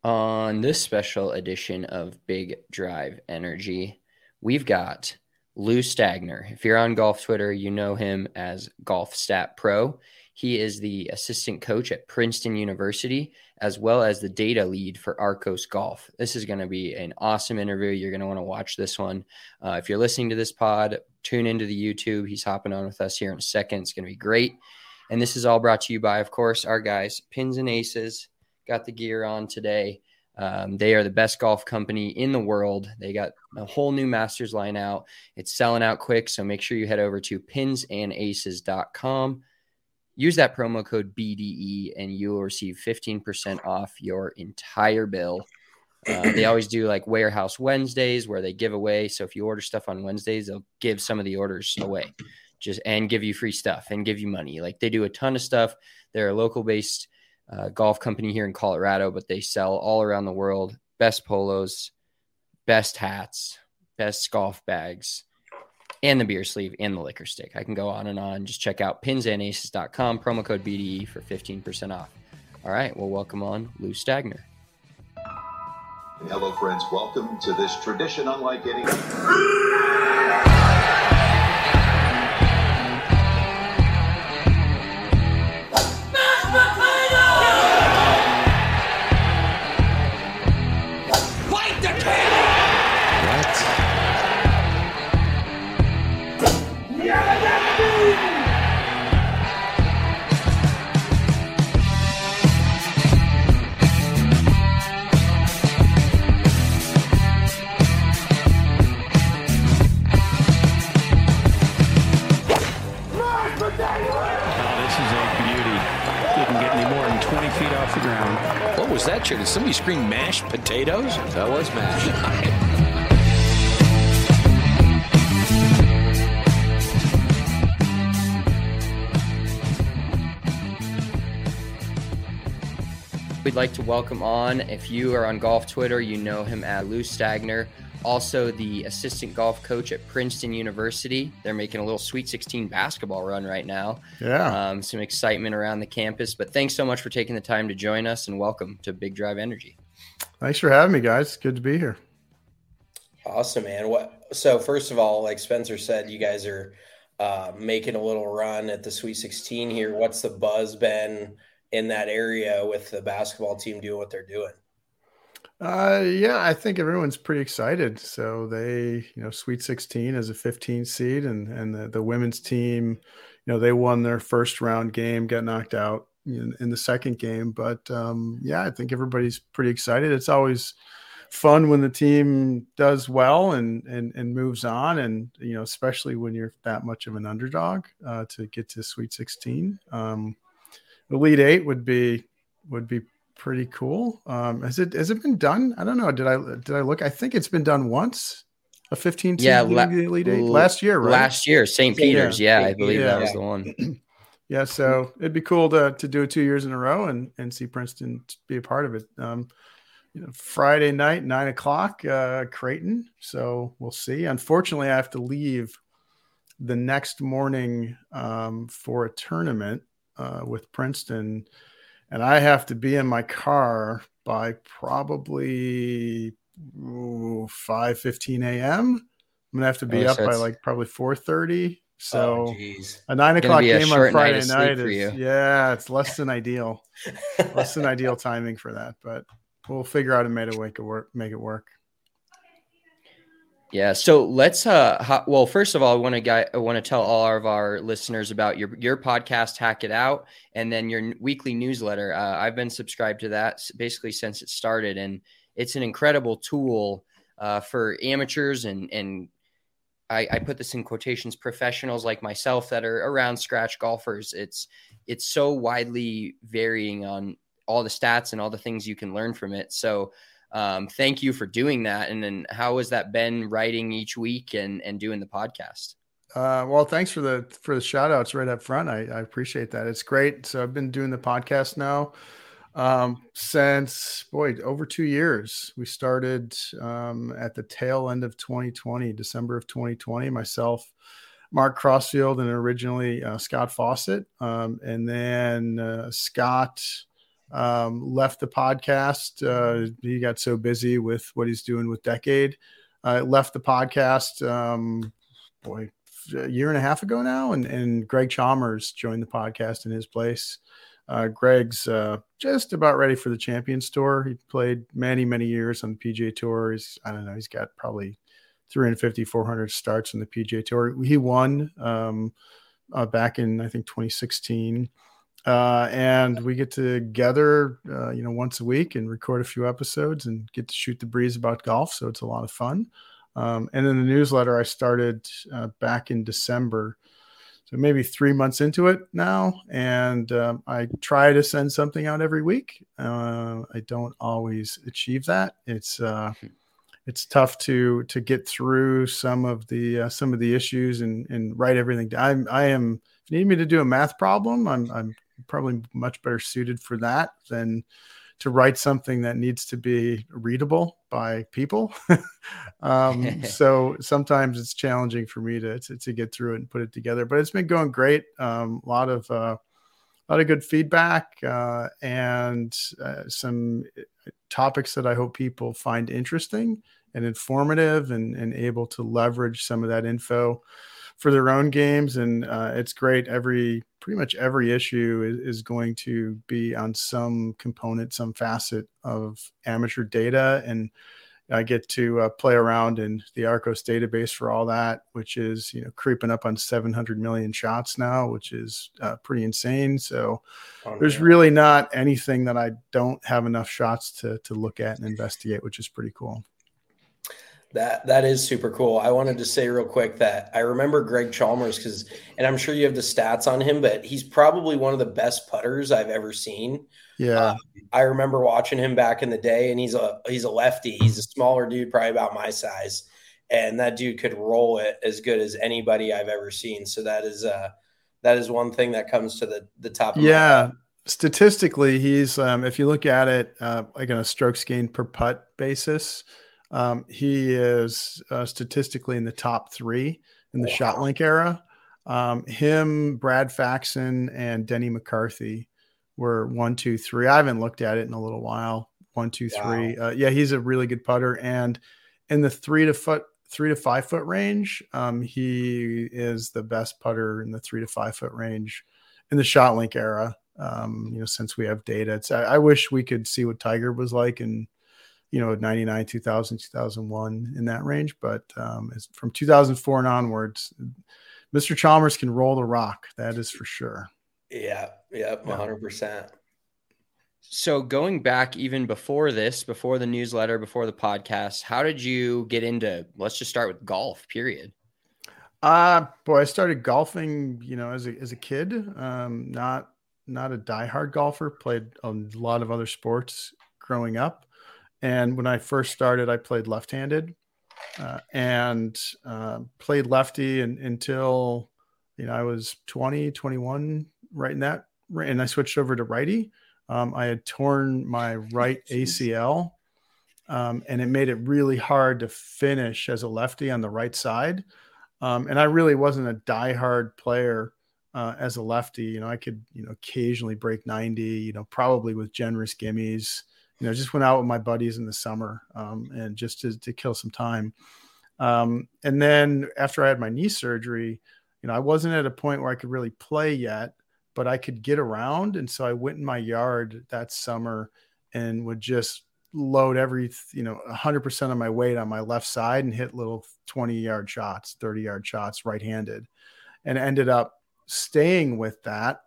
On this special edition of Big Drive Energy, we've got Lou Stagner. If you're on golf Twitter, you know him as Golf Stat Pro. He is the assistant coach at Princeton University, as well as the data lead for Arcos Golf. This is going to be an awesome interview. You're going to want to watch this one. If you're listening to this pod, tune into the YouTube. He's hopping on with us here in a second. It's going to be great. And this is all brought to you by, of course, our guys, Pins and Aces. Got the gear on today. They are the best golf company in the world. They got a whole new Masters line out. It's selling out quick, so make sure you head over to pinsandaces.com. Use that promo code BDE, and you will receive 15% off your entire bill. They always do like Warehouse Wednesdays where they give away. So if you order stuff on Wednesdays, they'll give some of the orders away and give you free stuff and give you money. Like they do a ton of stuff. They're a local-based golf company here in Colorado, but they sell all around the world. Best polos, best hats, best golf bags, and the beer sleeve and the liquor stick. I can go on and on. Just check out pinsandaces.com, promo code BDE for 15% off. All right, well, welcome on Lou Stagner. Hello, friends. Welcome to this tradition unlike any. What was that, Did somebody scream mashed potatoes? That was mashed. We'd like to welcome on, if you are on golf Twitter, you know him as Lou Stagner, also the assistant golf coach at Princeton University. They're making a little Sweet 16 basketball run right now. Yeah. Some excitement around the campus. But thanks so much for taking the time to join us, and welcome to Big Drive Energy. Thanks for having me, guys. Good to be here. Awesome, man. So first of all, like Spencer said, you guys are making a little run at the Sweet 16 here. What's the buzz been in that area with the basketball team doing what they're doing? Yeah, I think everyone's pretty excited. So they, Sweet 16 as a 15 seed, and the women's team, they won their first round game, got knocked out in the second game. But yeah, I think everybody's pretty excited. It's always fun when the team does well and moves on, and especially when you're that much of an underdog to get to Sweet 16. The Elite Eight would be pretty cool. Has it been done? I don't know. Did I look? I think it's been done once. A 15 team Elite Eight last year, right? Last year, St. Peter's. Yeah, I believe that was the one. Yeah, so it'd be cool to do it 2 years in a row and see Princeton be a part of it. Friday night, 9:00, Creighton. So we'll see. Unfortunately, I have to leave the next morning for a tournament with Princeton. And I have to be in my car by probably 5:15 a.m. I'm going to have to be up by like probably 4:30. So a 9:00 game on Friday night it's less than ideal. Less than ideal timing for that. But we'll figure out a way to make it work. Yeah. So let's, well, first of all, I want to tell all of our listeners about your podcast, Hack It Out, and then your weekly newsletter. I've been subscribed to that basically since it started, and it's an incredible tool for amateurs and I put this in quotations, professionals like myself that are around scratch golfers. It's so widely varying on all the stats and all the things you can learn from it. So thank you for doing that. And then how has that been, writing each week and doing the podcast? Well, thanks for the shout outs right up front. I appreciate that. It's great. So I've been doing the podcast now since over 2 years. We started at the tail end of 2020, December of 2020, myself, Mark Crossfield, and originally Scott Fawcett. And then Scott left the podcast. He got so busy with what he's doing with Decade. Left the podcast, a year and a half ago now, and Greg Chalmers joined the podcast in his place. Greg's just about ready for the Champions Tour. He played many, many years on the PGA Tour. He's got probably 350, 400 starts on the PGA Tour. He won back in, I think, 2016. And we get together, once a week and record a few episodes and get to shoot the breeze about golf. So it's a lot of fun. And then the newsletter I started back in December. So maybe 3 months into it now. And I try to send something out every week. I don't always achieve that. It's tough to get through some of the issues and write everything down. If you need me to do a math problem, I'm probably much better suited for that than to write something that needs to be readable by people. So sometimes it's challenging for me to get through it and put it together, but it's been going great. A lot of good feedback and some topics that I hope people find interesting and informative and able to leverage some of that info for their own games. And it's great. Pretty much every issue is going to be on some component, some facet of amateur data. And I get to play around in the Arccos database for all that, which is, creeping up on 700 million shots now, which is pretty insane. So there's really not anything that I don't have enough shots to look at and investigate, which is pretty cool. That is super cool. I wanted to say real quick that I remember Greg Chalmers and I'm sure you have the stats on him, but he's probably one of the best putters I've ever seen. Yeah. I remember watching him back in the day, and he's a lefty. He's a smaller dude, probably about my size. And that dude could roll it as good as anybody I've ever seen. So that is one thing that comes to the top of my head. Statistically, he's if you look at it like on a strokes gained per putt basis, he is statistically in the top 3 in the ShotLink era. Him, Brad Faxon, and Denny McCarthy were 1, 2, 3. I haven't looked at it in a little while. 1, 2, 3. Wow. He's a really good putter. And in the 3 to 5 foot range, he is the best putter in the 3 to 5 foot range in the ShotLink era. Since we have data, I wish we could see what Tiger was like in 99, 2000, 2001 in that range. But from 2004 and onwards, Mr. Chalmers can roll the rock. That is for sure. Yeah. 100%. So going back even before the newsletter, before the podcast, how did you get into, let's just start with golf, period? I started golfing, as a kid, not a diehard golfer, played a lot of other sports growing up. And when I first started, I played left-handed and played lefty until, I was 20, 21, right in that. And I switched over to righty. I had torn my right ACL and it made it really hard to finish as a lefty on the right side. And I really wasn't a diehard player as a lefty. I could, occasionally break 90, probably with generous gimmies. Just went out with my buddies in the summer and just to kill some time. And then after I had my knee surgery, I wasn't at a point where I could really play yet, but I could get around. And so I went in my yard that summer and would just load 100% of my weight on my left side and hit little 20-yard shots, 30-yard shots, right-handed, and ended up staying with that.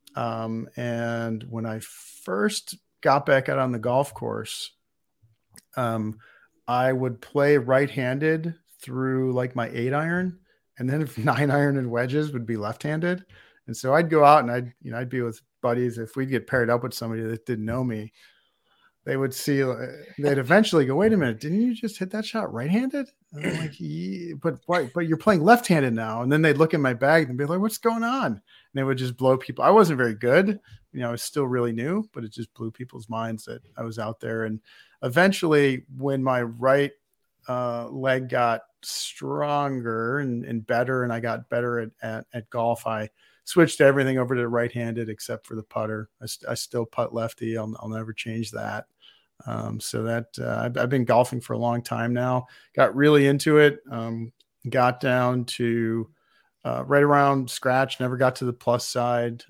And when I first got back out on the golf course, I would play right-handed through like my 8-iron, and then if 9-iron and wedges would be left-handed. And so I'd go out and I'd be with buddies. If we'd get paired up with somebody that didn't know me, they would see, they'd eventually go, wait a minute, didn't you just hit that shot right-handed? And I'm like, yeah, but you're playing left-handed now. And then they'd look in my bag and be like, what's going on? And they would just blow people. I wasn't very good. I was still really new, but it just blew people's minds that I was out there. And eventually when my right leg got stronger and better, and I got better at golf, I switched everything over to right-handed except for the putter. I still putt lefty. I'll never change that. So that I've been golfing for a long time now. Got really into it. Got down to right around scratch. Never got to the plus side.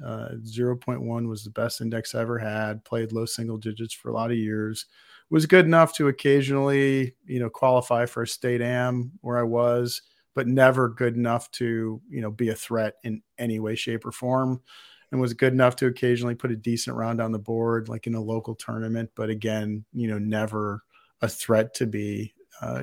0.1 was the best index I ever had. Played low single digits for a lot of years. Was good enough to occasionally, qualify for a state am where I was, but never good enough to, be a threat in any way, shape, or form. And was good enough to occasionally put a decent round on the board, like in a local tournament. But again, never a threat to be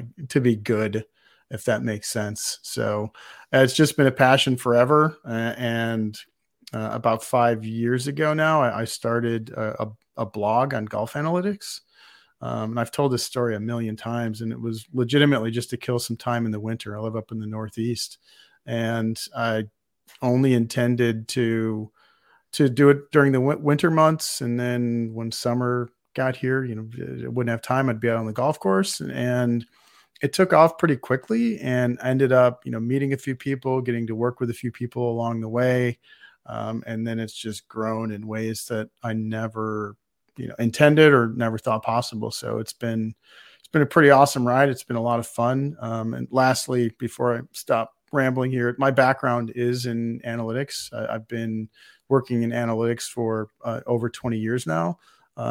good, if that makes sense. So it's just been a passion forever. And about 5 years ago now, I started a blog on golf analytics. And I've told this story a million times, and it was legitimately just to kill some time in the winter. I live up in the Northeast, and I only intended to do it during the winter months. And then when summer got here, I wouldn't have time. I'd be out on the golf course, and it took off pretty quickly, and I ended up, meeting a few people, getting to work with a few people along the way. And then it's just grown in ways that I never intended or never thought possible. So it's been a pretty awesome ride. It's been a lot of fun. And lastly, before I stop rambling here, my background is in analytics. I've been working in analytics for over 20 years now.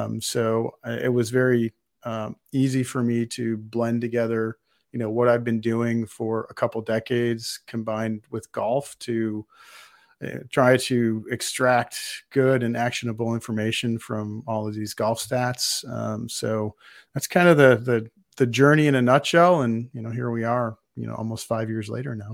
So it was very easy for me to blend together, what I've been doing for a couple decades combined with golf to try to extract good and actionable information from all of these golf stats. So that's kind of the journey in a nutshell. And, here we are, almost 5 years later now.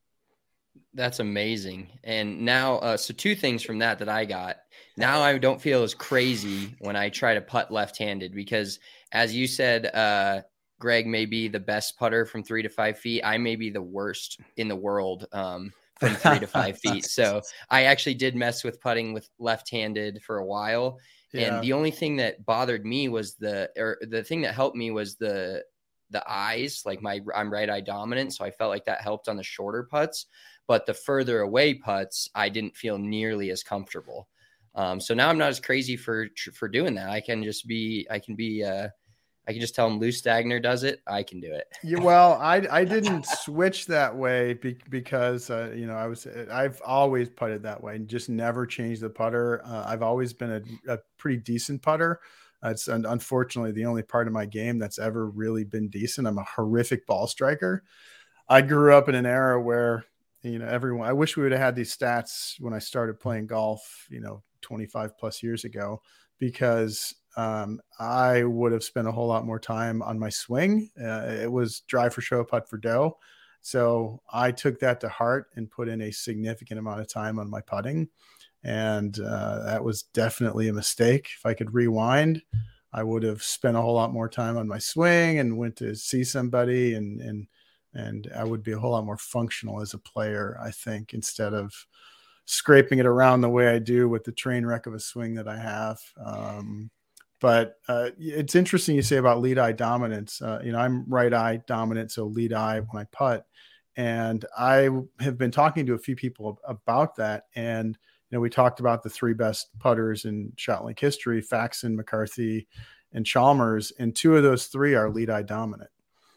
That's amazing. And now, so two things from that I got. Now I don't feel as crazy when I try to putt left-handed because, as you said, Greg may be the best putter from 3 to 5 feet. I may be the worst in the world from 3 to 5 feet. So I actually did mess with putting with left-handed for a while. Yeah. And the only thing that bothered me was the thing that helped me was the eyes. Like I'm right eye dominant, so I felt like that helped on the shorter putts. But the further away putts, I didn't feel nearly as comfortable. So now I'm not as crazy for doing that. I can just tell him Lou Stagner does it. I can do it. Yeah, well, I didn't switch that way because I've always putted that way and just never changed the putter. I've always been a pretty decent putter. It's unfortunately the only part of my game that's ever really been decent. I'm a horrific ball striker. I grew up in an era where I wish we would have had these stats when I started playing golf, 25 plus years ago, because I would have spent a whole lot more time on my swing. It was drive for show, putt for dough. So I took that to heart and put in a significant amount of time on my putting. And that was definitely a mistake. If I could rewind, I would have spent a whole lot more time on my swing and went to see somebody and I would be a whole lot more functional as a player, I think, instead of scraping it around the way I do with the train wreck of a swing that I have. But it's interesting you say about lead eye dominance. I'm right eye dominant, so lead eye when I putt. And I have been talking to a few people about that. And, we talked about the 3 best putters in ShotLink history, Faxon, McCarthy, and Chalmers. And 2 of those 3 are lead eye dominant.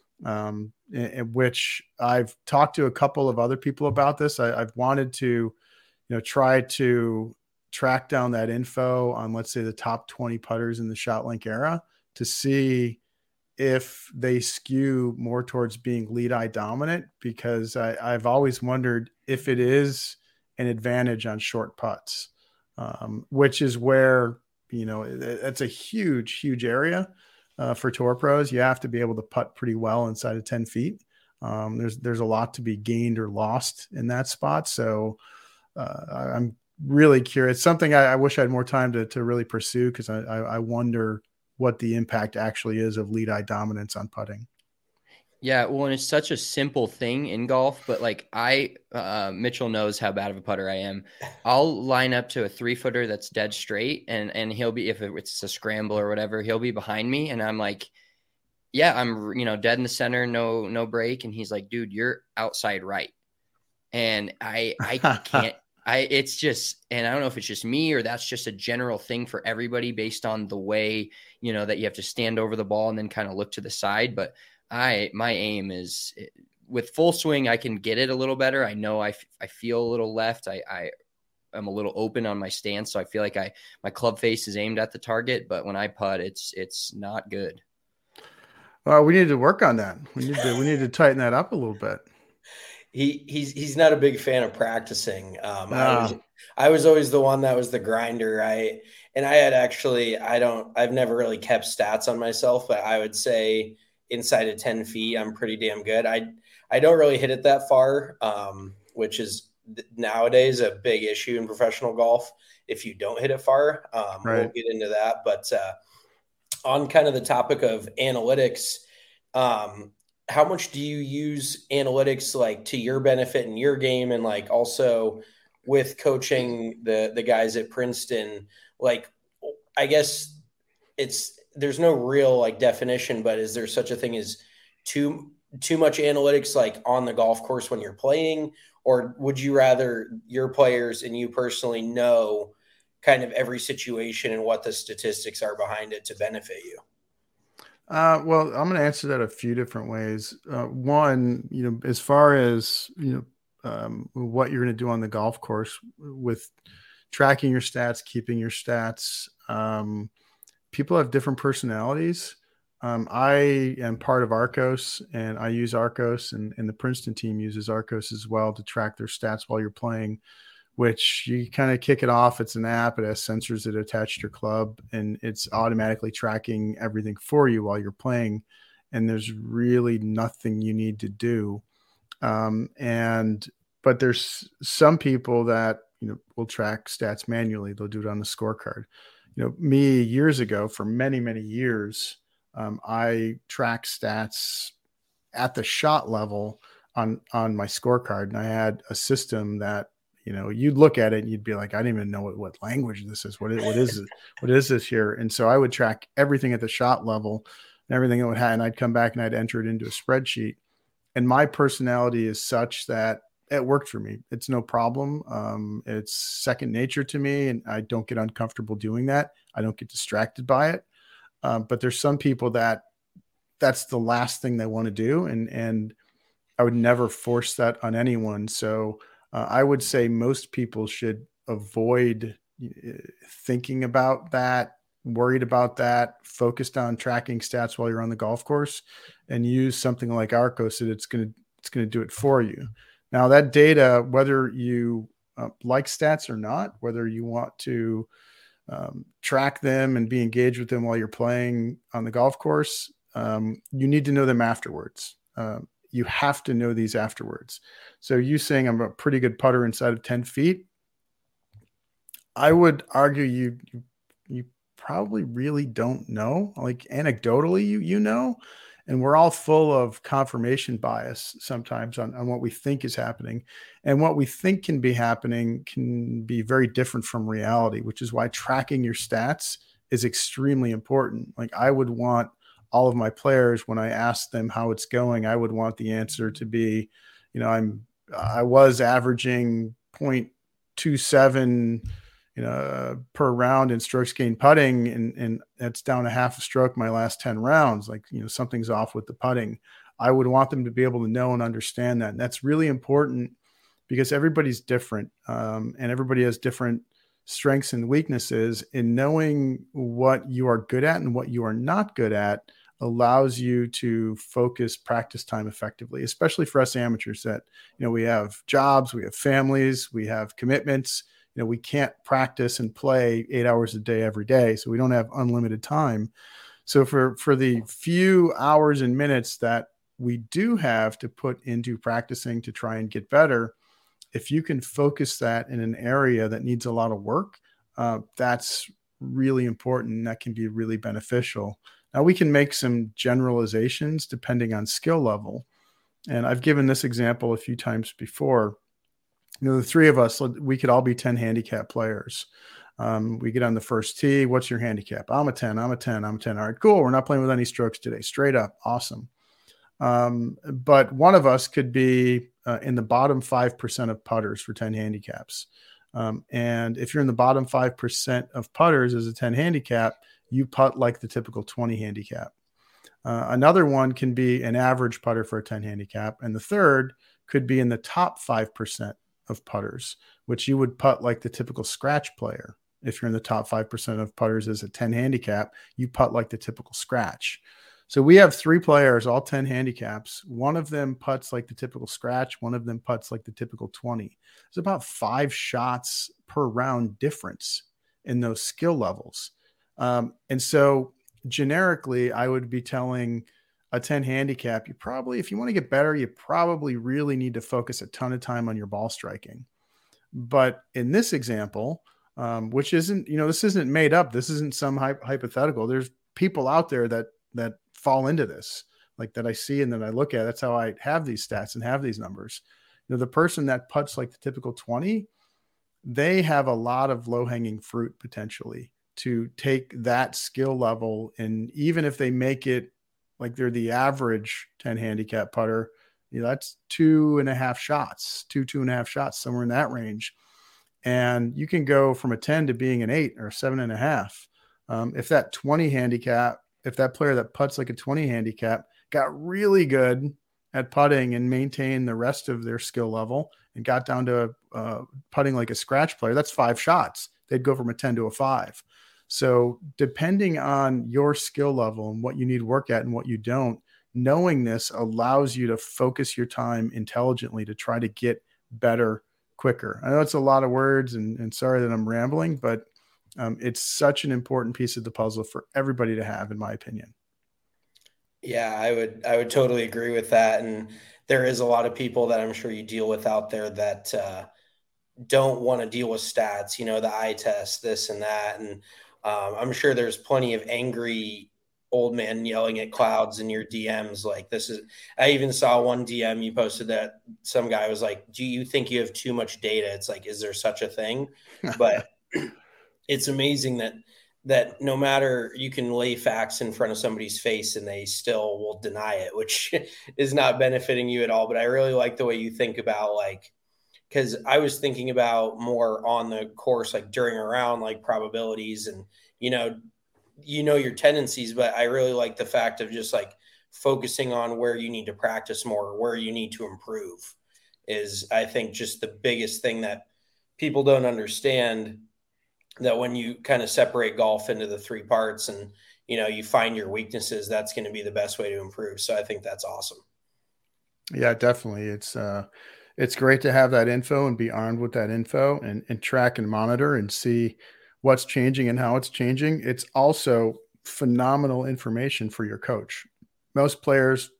In which I've talked to a couple of other people about this. I've wanted to, try to track down that info on, let's say, the top 20 putters in the ShotLink era to see if they skew more towards being lead eye dominant, because I've always wondered if it is an advantage on short putts, which is where, it's a huge area. For tour pros, you have to be able to putt pretty well inside of 10 feet. There's a lot to be gained or lost in that spot. So I'm really curious. Something I wish I had more time to really pursue, because I wonder what the impact actually is of lead eye dominance on putting. Yeah, well, and it's such a simple thing in golf, but like Mitchell knows how bad of a putter I am. I'll line up to a 3-footer that's dead straight, and he'll be, if it's a scramble or whatever, he'll be behind me, and I'm like, yeah, I'm dead in the center, no break, and he's like, dude, you're outside right, and I It's just, and I don't know if it's just me or that's just a general thing for everybody based on the way, that you have to stand over the ball and then kind of look to the side. But my aim is with full swing, I can get it a little better. I know I feel a little left. I am a little open on my stance. So I feel like my club face is aimed at the target, but when I putt, it's not good. Well, we need to work on that. We need to tighten that up a little bit. He's not a big fan of practicing. I was always the one that was the grinder. I've never really kept stats on myself, but I would say inside of 10 feet, I'm pretty damn good. I don't really hit it that far, which is nowadays a big issue in professional golf. If you don't hit it far, Right. We'll get into that. But on kind of the topic of analytics, how much do you use analytics like to your benefit in your game, and like also with coaching the guys at Princeton? Like, I guess there's no real like definition, but is there such a thing as too much analytics like on the golf course when you're playing, or would you rather your players and you personally know kind of every situation and what the statistics are behind it to benefit you? Well, I'm going to answer that a few different ways. One, as far as, what you're going to do on the golf course with tracking your stats, keeping your stats, people have different personalities. I am part of Arccos, and I use Arccos, and the Princeton team uses Arccos as well to track their stats while you're playing, which you kind of kick it off. It's an app. It has sensors that attach to your club, and it's automatically tracking everything for you while you're playing. And there's really nothing you need to do. But there's some people that, will track stats manually. They'll do it on the scorecard. Me years ago, for many, many years, I track stats at the shot level on my scorecard. And I had a system that, you'd look at it and you'd be like, I didn't even know what language this is. What is it? What is this here? And so I would track everything at the shot level and everything it would have, and I'd come back and I'd enter it into a spreadsheet. And my personality is such that it worked for me. It's no problem. It's second nature to me, and I don't get uncomfortable doing that. I don't get distracted by it. But there's some people that's the last thing they want to do. And I would never force that on anyone. So I would say most people should avoid thinking about that, worried about that, focused on tracking stats while you're on the golf course, and use something like Arccos that it's going to do it for you. Now that data, whether you like stats or not, whether you want to track them and be engaged with them while you're playing on the golf course, you need to know them afterwards. You have to know these afterwards. So you saying I'm a pretty good putter inside of 10 feet, I would argue you probably really don't know. Like anecdotally, you know, and we're all full of confirmation bias sometimes on what we think is happening. And what we think can be happening can be very different from reality, which is why tracking your stats is extremely important. Like I would want all of my players, when I ask them how it's going, I would want the answer to be, I was averaging 0.27, per round in strokes gained putting, and that's down a half a stroke my last 10 rounds. Like, something's off with the putting. I would want them to be able to know and understand that. And that's really important because everybody's different, and everybody has different strengths and weaknesses. In knowing what you are good at and what you are not good at allows you to focus practice time effectively, especially for us amateurs that, we have jobs, we have families, we have commitments. We can't practice and play 8 hours a day every day. So we don't have unlimited time. So for the few hours and minutes that we do have to put into practicing to try and get better, if you can focus that in an area that needs a lot of work, that's really important. And that can be really beneficial. Now we can make some generalizations depending on skill level. And I've given this example a few times before. The three of us, we could all be 10 handicap players. We get on the first tee. What's your handicap? I'm a 10. I'm a 10. I'm a 10. All right, cool. We're not playing with any strokes today. Straight up. Awesome. But one of us could be in the bottom 5% of putters for 10 handicaps. And if you're in the bottom 5% of putters as a 10 handicap, you putt like the typical 20 handicap. Another one can be an average putter for a 10 handicap. And the third could be in the top 5% of putters, which you would putt like the typical scratch player. If you're in the top 5% of putters as a 10 handicap, you putt like the typical scratch. So we have 3 players, all 10 handicaps. One of them putts like the typical scratch. One of them putts like the typical 20. There's about 5 shots per round difference in those skill levels. And so generically, I would be telling a 10 handicap, you probably, if you want to get better, you probably really need to focus a ton of time on your ball striking. But in this example, which isn't, this isn't made up. This isn't some hypothetical. There's people out there that fall into this, like that I see and that I look at. That's how I have these stats and have these numbers. The person that putts like the typical 20, they have a lot of low-hanging fruit potentially to take that skill level. And even if they make it like they're the average 10 handicap putter, that's 2.5 shots, 2.5 shots, somewhere in that range. And you can go from a 10 to being an 8 or a 7.5. If that 20 handicap, if that player that putts like a 20 handicap got really good at putting and maintained the rest of their skill level and got down to putting like a scratch player, that's 5 shots. They'd go from a 10 to a 5. So depending on your skill level and what you need work at and what you don't, knowing this allows you to focus your time intelligently to try to get better quicker. I know it's a lot of words and sorry that I'm rambling, but it's such an important piece of the puzzle for everybody to have, in my opinion. Yeah, I would totally agree with that. And there is a lot of people that I'm sure you deal with out there that don't want to deal with stats, the eye test, this and that. And I'm sure there's plenty of angry old man yelling at clouds in your DMs. Like I even saw one DM you posted that some guy was like, do you think you have too much data? It's like, is there such a thing? But it's amazing that no matter, you can lay facts in front of somebody's face and they still will deny it, which is not benefiting you at all. But I really like the way you think about, like, because I was thinking about more on the course, like during a round, like probabilities and, your tendencies. But I really like the fact of just like focusing on where you need to practice more, where you need to improve is, I think, just the biggest thing that people don't understand, that when you kind of separate golf into the 3 parts and, you find your weaknesses, that's going to be the best way to improve. So I think that's awesome. Yeah, definitely. It's great to have that info and be armed with that info and track and monitor and see what's changing and how it's changing. It's also phenomenal information for your coach. Most players,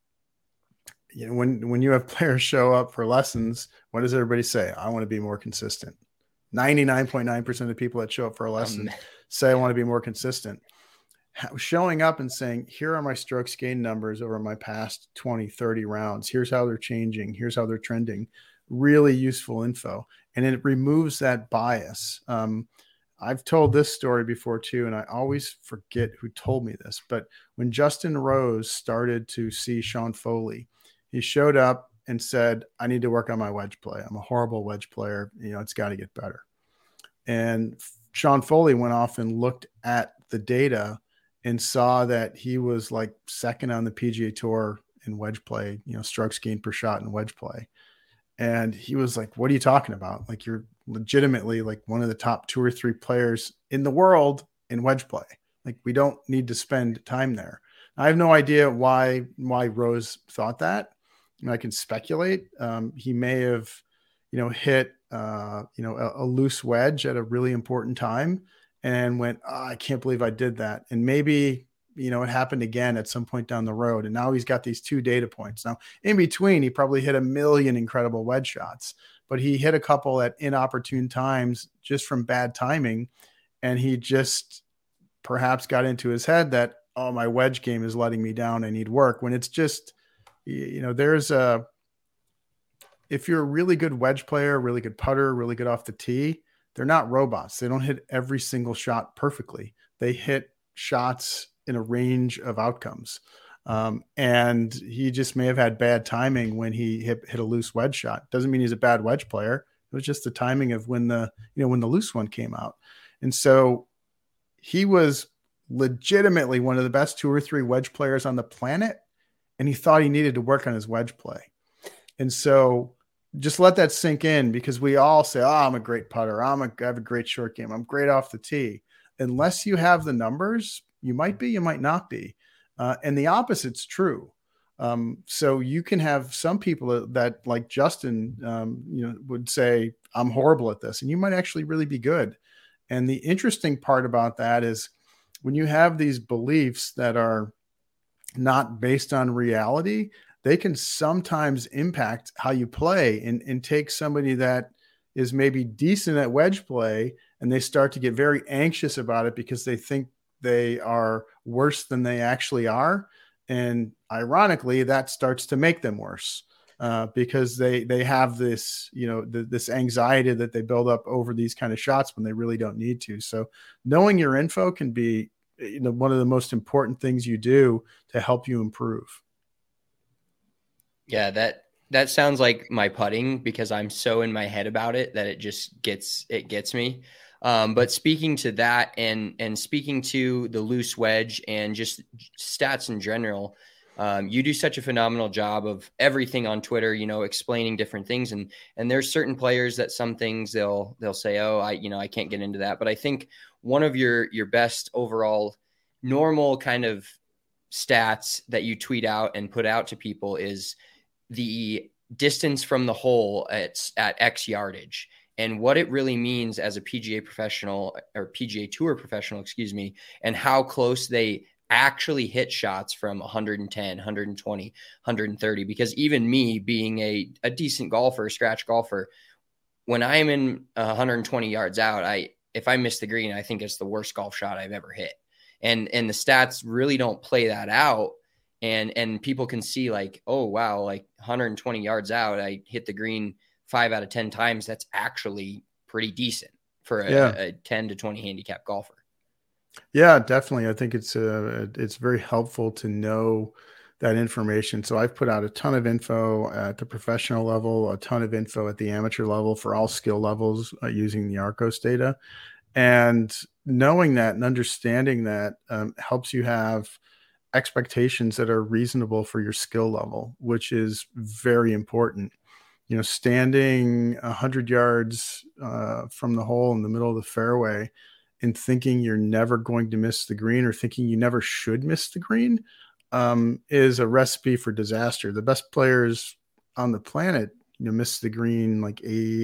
when you have players show up for lessons, what does everybody say? I want to be more consistent. 99.9% of people that show up for a lesson say I want to be more consistent. Showing up and saying, here are my strokes gain numbers over my past 20, 30 rounds. Here's how they're changing. Here's how they're trending. Really useful info. And it removes that bias. I've told this story before too, and I always forget who told me this, but when Justin Rose started to see Sean Foley, he showed up and said, I need to work on my wedge play. I'm a horrible wedge player. It's got to get better. And Sean Foley went off and looked at the data and saw that he was like second on the PGA Tour in wedge play, strokes gained per shot in wedge play. And he was like, what are you talking about? Like, you're legitimately like one of the top 2 or 3 players in the world in wedge play. Like, we don't need to spend time there. I have no idea why Rose thought that. I can speculate. He may have, hit, a loose wedge at a really important time and went, I can't believe I did that. And maybe, it happened again at some point down the road. And now he's got these 2 data points. Now, in between, he probably hit a million incredible wedge shots, but he hit a couple at inopportune times just from bad timing. And he just perhaps got into his head that, oh, my wedge game is letting me down. I need work. When it's just, if you're a really good wedge player, really good putter, really good off the tee, they're not robots. They don't hit every single shot perfectly. They hit shots in a range of outcomes. And he just may have had bad timing when he hit a loose wedge shot. Doesn't mean he's a bad wedge player. It was just the timing of when the loose one came out. And so he was legitimately one of the best 2 or 3 wedge players on the planet. And he thought he needed to work on his wedge play. And so just let that sink in, because we all say, oh, I'm a great putter. I have a great short game. I'm great off the tee. Unless you have the numbers, you might be, you might not be. And the opposite's true. So you can have some people that like Justin, would say, I'm horrible at this. And you might actually really be good. And the interesting part about that is when you have these beliefs that are not based on reality, they can sometimes impact how you play and take somebody that is maybe decent at wedge play, and they start to get very anxious about it because they think they are worse than they actually are. And ironically, that starts to make them worse because they have this, this anxiety that they build up over these kind of shots when they really don't need to. So knowing your info can be one of the most important things you do to help you improve. Yeah, that sounds like my putting, because I'm so in my head about it that it just gets me. But speaking to that and speaking to the loose wedge and just stats in general, you do such a phenomenal job of everything on Twitter, explaining different things. And there's certain players that some things they'll say, oh, I can't get into that. But I think one of your best overall normal kind of stats that you tweet out and put out to people is the distance from the hole at X yardage. And what it really means as a PGA professional or PGA Tour professional, and how close they actually hit shots from 110, 120, 130. Because even me being a decent golfer, scratch golfer, when I'm in 120 yards out, if I miss the green, I think it's the worst golf shot I've ever hit. And the stats really don't play that out. And people can see like, oh, wow, like 120 yards out, I hit the green 5 out of 10 times. That's actually pretty decent for a 10 to 20 handicap golfer. Yeah, definitely. I think it's very helpful to know that information. So I've put out a ton of info at the professional level, a ton of info at the amateur level for all skill levels using the Arccos data. And knowing that and understanding that helps you have expectations that are reasonable for your skill level, which is very important. Standing 100 yards from the hole in the middle of the fairway and thinking you're never going to miss the green, or thinking you never should miss the green, is a recipe for disaster. The best players on the planet, miss the green like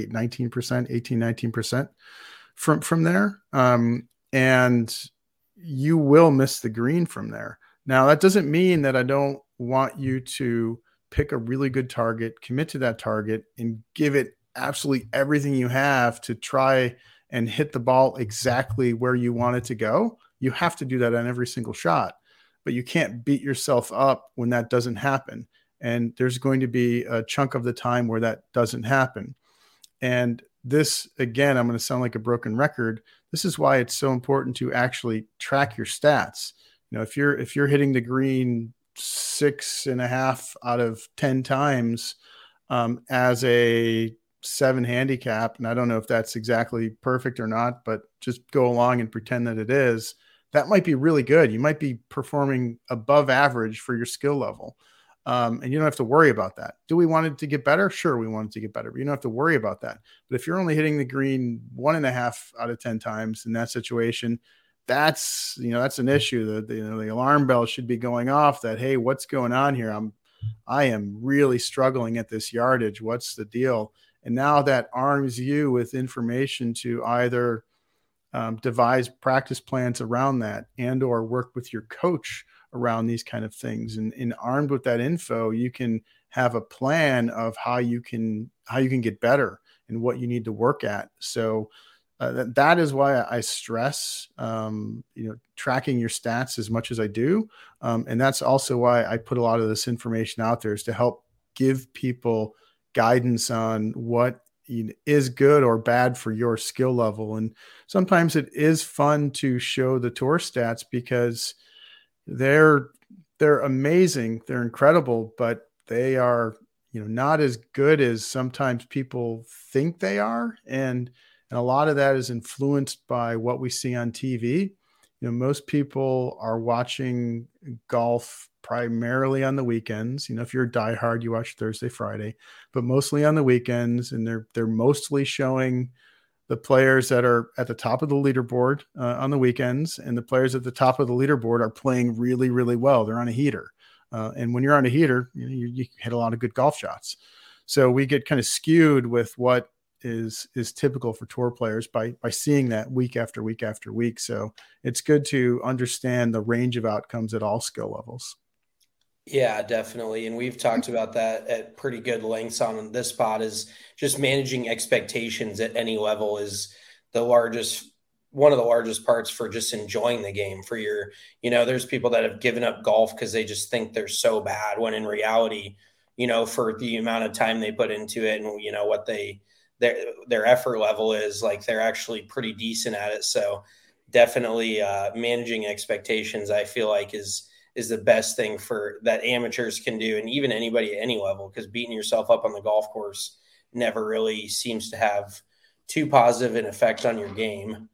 19% from there. And you will miss the green from there. Now, that doesn't mean that I don't want you to pick a really good target, commit to that target, and give it absolutely everything you have to try and hit the ball exactly where you want it to go. You have to do that on every single shot, but you can't beat yourself up when that doesn't happen. And there's going to be a chunk of the time where that doesn't happen. And this, again, I'm going to sound like a broken record. This is why it's so important to actually track your stats. If you're hitting the green 6.5 out of 10 times as a 7 handicap, and I don't know if that's exactly perfect or not, but just go along and pretend that it is, that might be really good. You might be performing above average for your skill level. And you don't have to worry about that. Do we want it to get better? Sure, we want it to get better, but you don't have to worry about that. But if you're only hitting the green 1.5 out of 10 times in that situation, that's an issue. The alarm bell should be going off that, hey, what's going on here? I am really struggling at this yardage. What's the deal? And now that arms you with information to either devise practice plans around that and or work with your coach around these kind of things. And armed with that info, you can have a plan of how you can get better and what you need to work at. So that is why I stress, tracking your stats as much as I do. And that's also why I put a lot of this information out there, is to help give people guidance on what is good or bad for your skill level. And sometimes it is fun to show the tour stats because they're amazing. They're incredible, but they are, not as good as sometimes people think they are. And a lot of that is influenced by what we see on TV. Most people are watching golf primarily on the weekends. If you're a diehard, you watch Thursday, Friday, but mostly on the weekends. And they're mostly showing the players that are at the top of the leaderboard on the weekends, and the players at the top of the leaderboard are playing really, really well. They're on a heater. And when you're on a heater, you hit a lot of good golf shots. So we get kind of skewed with what is typical for tour players by seeing that week after week after week. So it's good to understand the range of outcomes at all skill levels. Yeah, definitely. And we've talked about that at pretty good lengths on this pod. Is just managing expectations at any level is one of the largest parts for just enjoying the game. For your, there's people that have given up golf because they just think they're so bad, when in reality, for the amount of time they put into it and, what their effort level is, like, they're actually pretty decent at it. So definitely managing expectations, I feel like is the best thing for that amateurs can do, and even anybody at any level, because beating yourself up on the golf course never really seems to have too positive an effect on your game.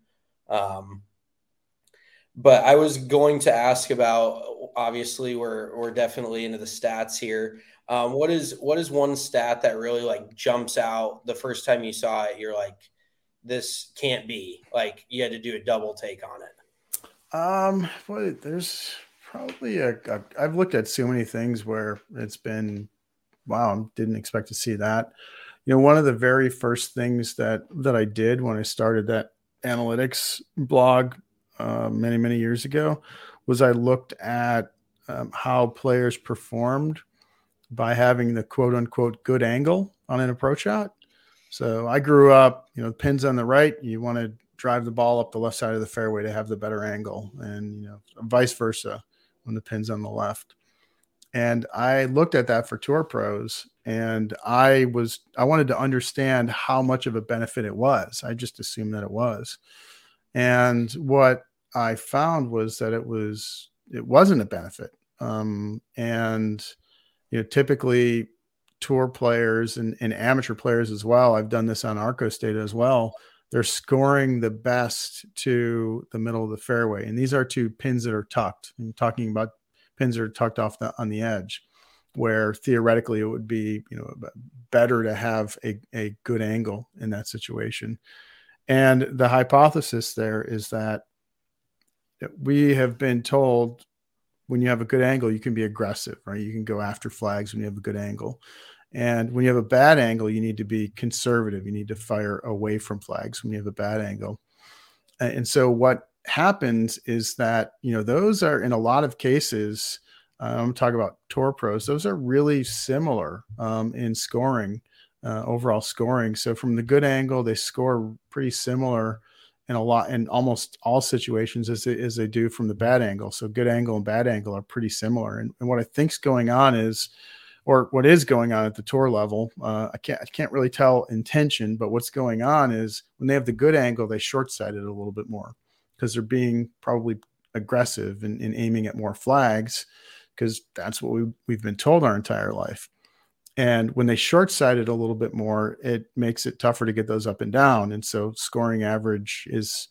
But I was going to ask about, obviously we're definitely into the stats here. What is one stat that really like jumps out the first time you saw it? You're like, this can't be, like, you had to do a double take on it. Well, there's probably I've looked at so many things where it's been, wow, I didn't expect to see that. One of the very first things that I did when I started that analytics blog many, many years ago was I looked at how players performed by having the quote unquote good angle on an approach shot. So I grew up, pins on the right, you want to drive the ball up the left side of the fairway to have the better angle, and vice versa when the pin's on the left. And I looked at that for tour pros, and I wanted to understand how much of a benefit it was. I just assumed that it was. And what I found was that it wasn't a benefit. And typically tour players and amateur players as well, I've done this on Arccos data as well, they're scoring the best to the middle of the fairway. And these are two pins that are tucked. I'm talking about pins that are tucked off on the edge, where theoretically it would be, better to have a good angle in that situation. And the hypothesis there is that we have been told when you have a good angle, you can be aggressive, right? You can go after flags when you have a good angle. And when you have a bad angle, you need to be conservative. You need to fire away from flags when you have a bad angle. And so what happens is that, those are, in a lot of cases, I'm talking about tour pros, those are really similar in scoring, overall scoring. So from the good angle, they score pretty similar in almost all situations as they do from the bad angle. So good angle and bad angle are pretty similar. And what I think's going on is, or what is going on at the tour level, I can't really tell intention, but what's going on is when they have the good angle, they short-sight it a little bit more because they're being probably aggressive and aiming at more flags, because that's what we've been told our entire life. And when they short-sight it a little bit more, it makes it tougher to get those up and down. And so scoring average is,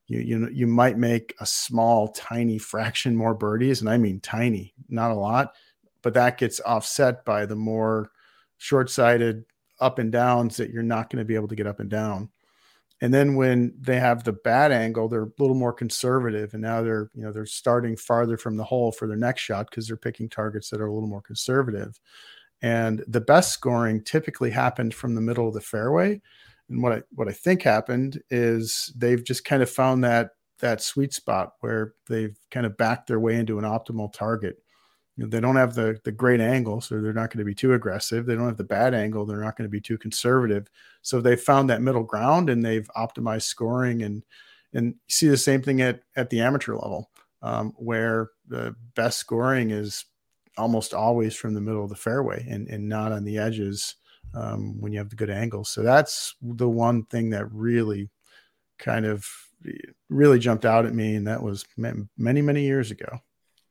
you might make a small, tiny fraction more birdies. And I mean tiny, not a lot, but that gets offset by the more short-sighted up and downs that you're not going to be able to get up and down. And then when they have the bad angle, they're a little more conservative. And now they're starting farther from the hole for their next shot because they're picking targets that are a little more conservative. And the best scoring typically happened from the middle of the fairway. And what I think happened is they've just kind of found that sweet spot where they've kind of backed their way into an optimal target. They don't have the great angle, so they're not going to be too aggressive. They don't have the bad angle. They're not going to be too conservative. So they found that middle ground and they've optimized scoring. And you see the same thing at the amateur level, where the best scoring is almost always from the middle of the fairway and not on the edges when you have the good angles. So that's the one thing that really jumped out at me. And that was many, many years ago.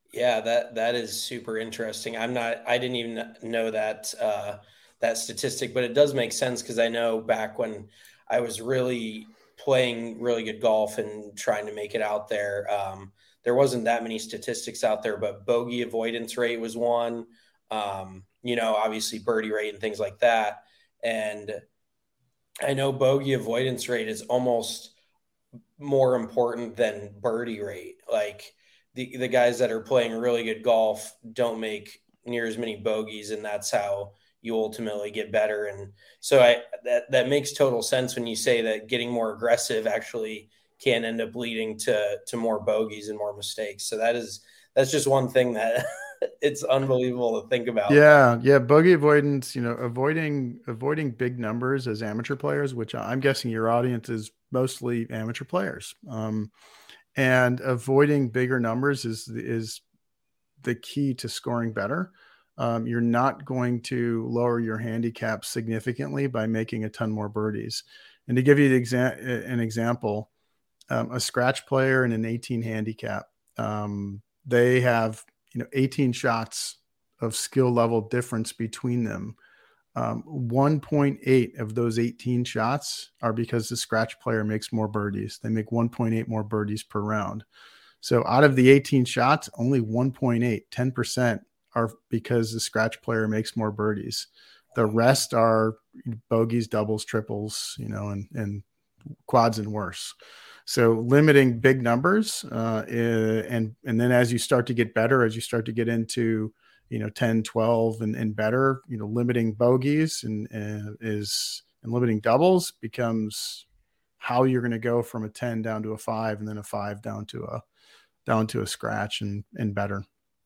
Yeah, that is super interesting. I didn't even know that that statistic, but it does make sense because I know back when I was really playing really good golf and trying to make it out there, there wasn't that many statistics out there, but bogey avoidance rate was one. Obviously birdie rate and things like that. And I know bogey avoidance rate is almost more important than birdie rate. Like the guys that are playing really good golf don't make near as many bogeys, and that's how you ultimately get better. And so that makes total sense when you say that getting more aggressive actually can end up leading to more bogeys and more mistakes. So that's just one thing that it's unbelievable to think about. Yeah, bogey avoidance. Avoiding big numbers as amateur players, which I'm guessing your audience is mostly amateur players. And avoiding bigger numbers is the key to scoring better. You're not going to lower your handicap significantly by making a ton more birdies. And to give you an example, a scratch player in an 18 handicap, they have 18 shots of skill level difference between them. 1.8 of those 18 shots are because the scratch player makes more birdies. They make 1.8 more birdies per round. So out of the 18 shots, only 1.8, 10% are because the scratch player makes more birdies. The rest are bogeys, doubles, triples, and quads and worse. So limiting big numbers, and then as you start to get better, as you start to get into 10, 12 and better, limiting bogeys and limiting doubles becomes how you're going to go from a 10 down to a 5 and then a 5 down to a scratch and better.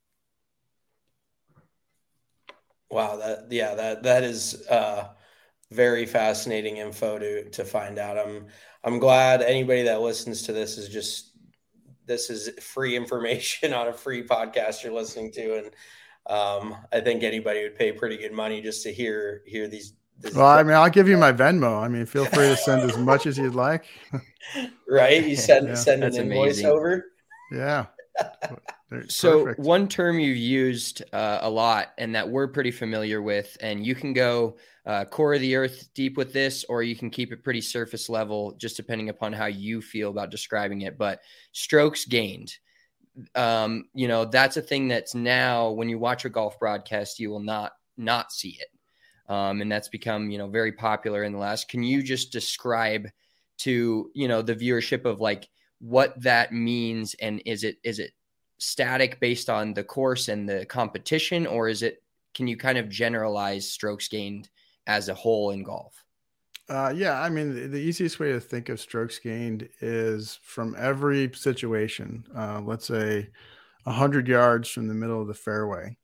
Wow, that is very fascinating info to find out. I'm glad anybody that listens to this is free information on a free podcast you're listening to, and I think anybody would pay pretty good money just to hear these. Well, I mean, I'll give you my Venmo. I mean, feel free to send as much as you'd like. Right? You send an invoice amazing. over. Yeah. So Perfect. one term you've used a lot and that we're pretty familiar with, and you can go core of the earth deep with this, or you can keep it pretty surface level, just depending upon how you feel about describing it. But strokes gained, that's a thing that's now when you watch a golf broadcast, you will not see it. And that's become, very popular in the last. Can you just describe to, the viewership of like what that means? And is it static based on the course and the competition, or can you kind of generalize strokes gained as a whole in golf? Yeah, I mean, the easiest way to think of strokes gained is from every situation. Let's say 100 yards from the middle of the fairway.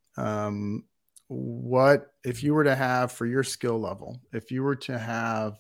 What if you were to have, for your skill level, if you were to have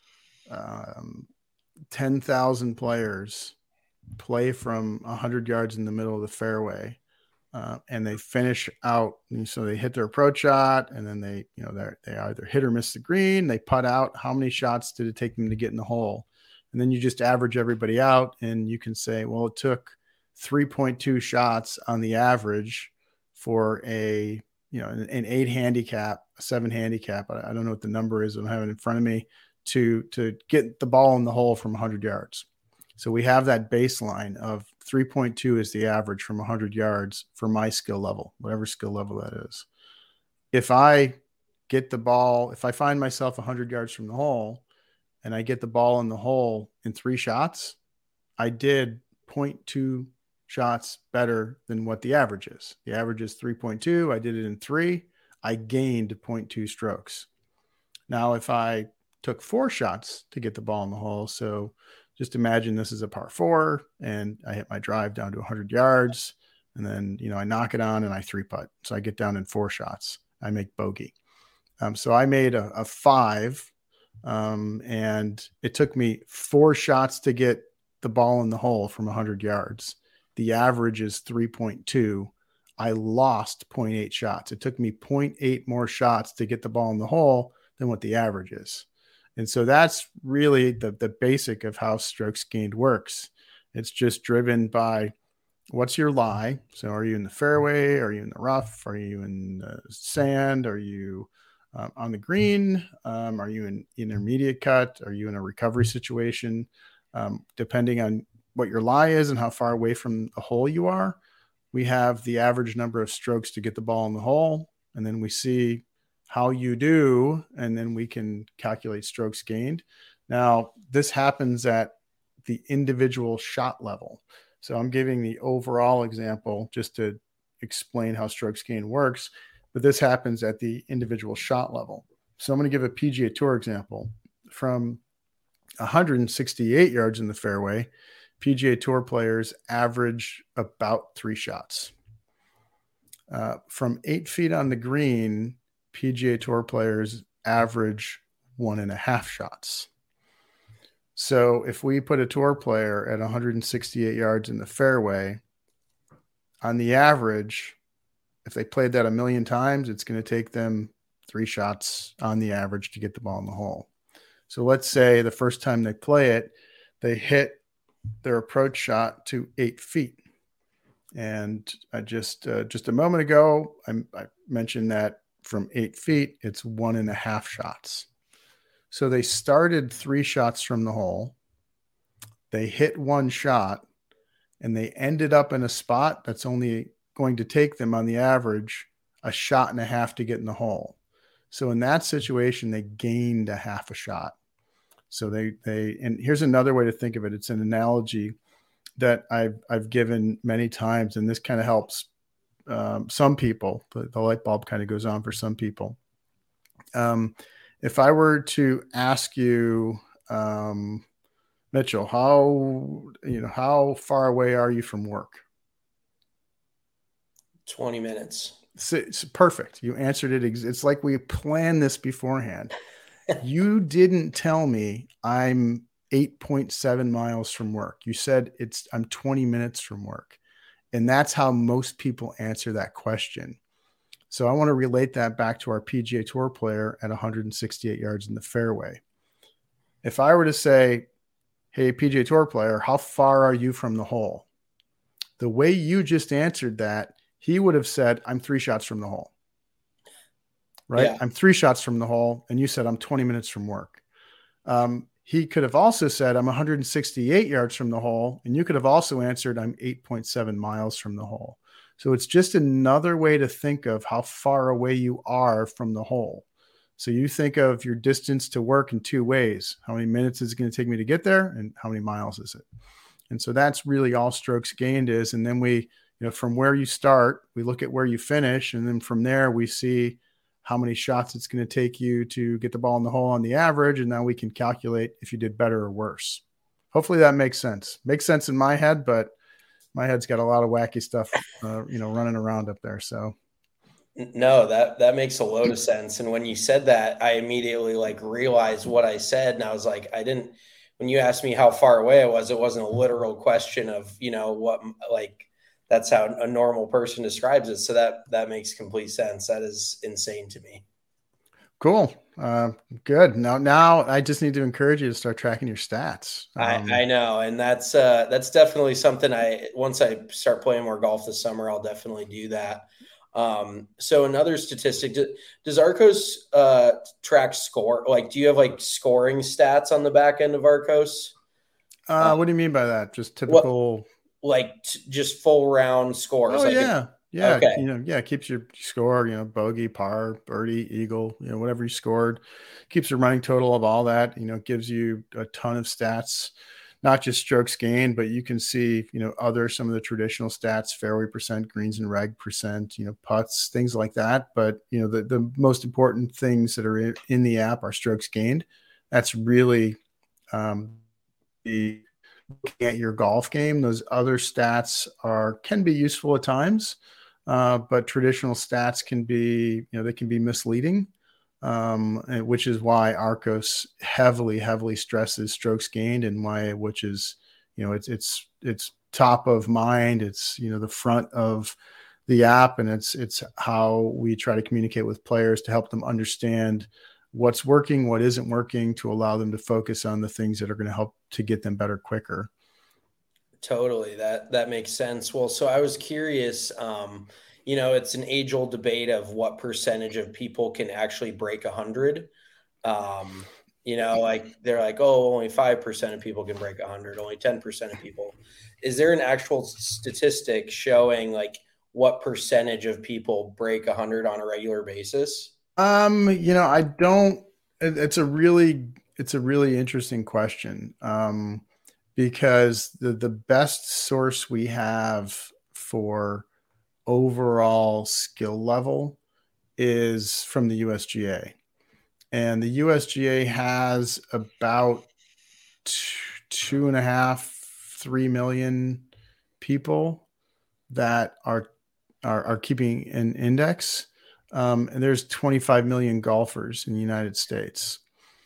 10,000 players play from 100 yards in the middle of the fairway, and they finish out, and so they hit their approach shot, and then they either hit or miss the green, they putt out. How many shots did it take them to get in the hole? And then you just average everybody out, and you can say, well, it took 3.2 shots on the average for an 8 handicap, a 7 handicap. I don't know what the number is. I don't have it in front of me to get the ball in the hole from 100 yards. So we have that baseline of 3.2 is the average from 100 yards for my skill level, whatever skill level that is. If I get the ball, if I find myself 100 yards from the hole and I get the ball in the hole in 3 shots, I did 0.2 shots better than what the average is. The average is 3.2. I did it in 3. I gained 0.2 strokes. Now, if I took 4 shots to get the ball in the hole, so just imagine this is a par 4 and I hit my drive down to 100 yards and then, I knock it on and I 3-putt. So I get down in 4 shots. I make bogey. So I made a 5 and it took me 4 shots to get the ball in the hole from 100 yards. The average is 3.2. I lost 0.8 shots. It took me 0.8 more shots to get the ball in the hole than what the average is. And so that's really the basic of how strokes gained works. It's just driven by what's your lie? So are you in the fairway? Are you in the rough? Are you in the sand? Are you on the green? Are you in intermediate cut? Are you in a recovery situation? Depending on what your lie is and how far away from the hole you are, we have the average number of strokes to get the ball in the hole. And then we see how you do, and then we can calculate strokes gained. Now, this happens at the individual shot level. So I'm giving the overall example just to explain how strokes gained works, but this happens at the individual shot level. So I'm going to give a PGA Tour example. From 168 yards in the fairway, PGA Tour players average about 3 shots. From 8 feet on the green, PGA Tour players average 1.5 shots. So if we put a tour player at 168 yards in the fairway, on the average, if they played that 1,000,000 times, it's going to take them 3 shots on the average to get the ball in the hole. So let's say the first time they play it, they hit their approach shot to 8 feet. And I just a moment ago, I mentioned that from 8 feet, it's 1.5 shots. So they started 3 shots from the hole. They hit 1 shot, and they ended up in a spot that's only going to take them on the average 1.5 shots to get in the hole. So in that situation, they gained 1/2 shot. So and here's another way to think of it. It's an analogy that I've given many times, and this kind of helps some people. The light bulb kind of goes on for some people. If I were to ask you, Mitchell, how far away are you from work? 20 minutes. It's perfect. You answered it. It's like we planned this beforehand. You didn't tell me I'm 8.7 miles from work. You said I'm 20 minutes from work. And that's how most people answer that question. So I want to relate that back to our PGA Tour player at 168 yards in the fairway. If I were to say, hey, PGA Tour player, how far are you from the hole? The way you just answered that, he would have said, I'm 3 shots from the hole. Right? Yeah. I'm 3 shots from the hole. And you said, I'm 20 minutes from work. He could have also said, I'm 168 yards from the hole. And you could have also answered, I'm 8.7 miles from the hole. So it's just another way to think of how far away you are from the hole. So you think of your distance to work in 2 ways. How many minutes is it going to take me to get there? And how many miles is it? And so that's really all strokes gained is. And then we, from where you start, we look at where you finish. And then from there, we see how many shots it's going to take you to get the ball in the hole on the average. And now we can calculate if you did better or worse. Hopefully that makes sense. Makes sense in my head, but my head's got a lot of wacky stuff, running around up there. So. No, that makes a load of sense. And when you said that, I immediately realized what I said. And I was like, when you asked me how far away I was, it wasn't a literal question of, that's how a normal person describes it. So that makes complete sense. That is insane to me. Cool. Good. Now I just need to encourage you to start tracking your stats. I know. And that's definitely something once I start playing more golf this summer, I'll definitely do that. So another statistic, does Arccos, track score? Do you have scoring stats on the back end of Arccos? What do you mean by that? Just typical, just full round scores. Oh, yeah. Yeah. Okay. Keeps your score, bogey, par, birdie, eagle, whatever you scored, keeps a running total of all that, gives you a ton of stats, not just strokes gained, but you can see, some of the traditional stats, fairway percent, greens and reg percent, putts, things like that. But, the most important things that are in the app are strokes gained. That's really looking at your golf game. Those other stats can be useful at times. But traditional stats can be, they can be misleading, which is why Arccos heavily stresses strokes gained, and which is, it's top of mind. It's, the front of the app, and it's how we try to communicate with players to help them understand what's working, what isn't working, to allow them to focus on the things that are going to help to get them better quicker. Totally. That makes sense. Well, so I was curious, it's an age-old debate of what percentage of people can actually break 100. Like they're like, oh, only 5% of people can break 100, only 10% of people. Is there an actual statistic showing like what percentage of people break 100 on a regular basis? I don't. It's a really interesting question. Because the best source we have for overall skill level is from the USGA. And the USGA has about 2.5, 3 million people that are keeping an index. And there's 25 million golfers in the United States.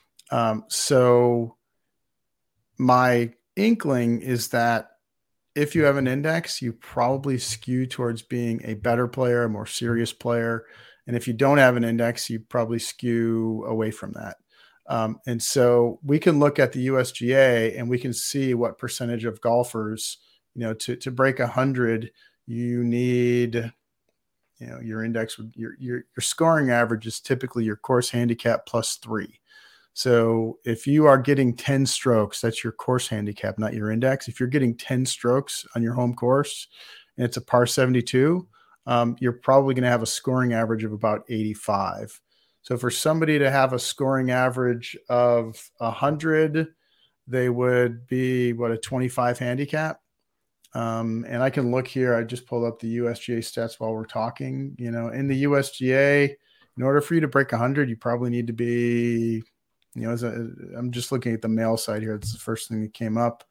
So my inkling is that if you have an index, you probably skew towards being a better player, a more serious player. And if you don't have an index, you probably skew away from that. And so we can look at the USGA and we can see what percentage of golfers, to break 100, you need, your index, your scoring average is typically your course handicap +3. So if you are getting 10 strokes, that's your course handicap, not your index. If you're getting 10 strokes on your home course and it's a par 72, you're probably going to have a scoring average of about 85. So for somebody to have a scoring average of 100, they would be a 25 handicap. And I can look here. I just pulled up the USGA stats while we're talking. In the USGA, in order for you to break 100, you probably need to be, I'm just looking at the male side here. It's the first thing that came up.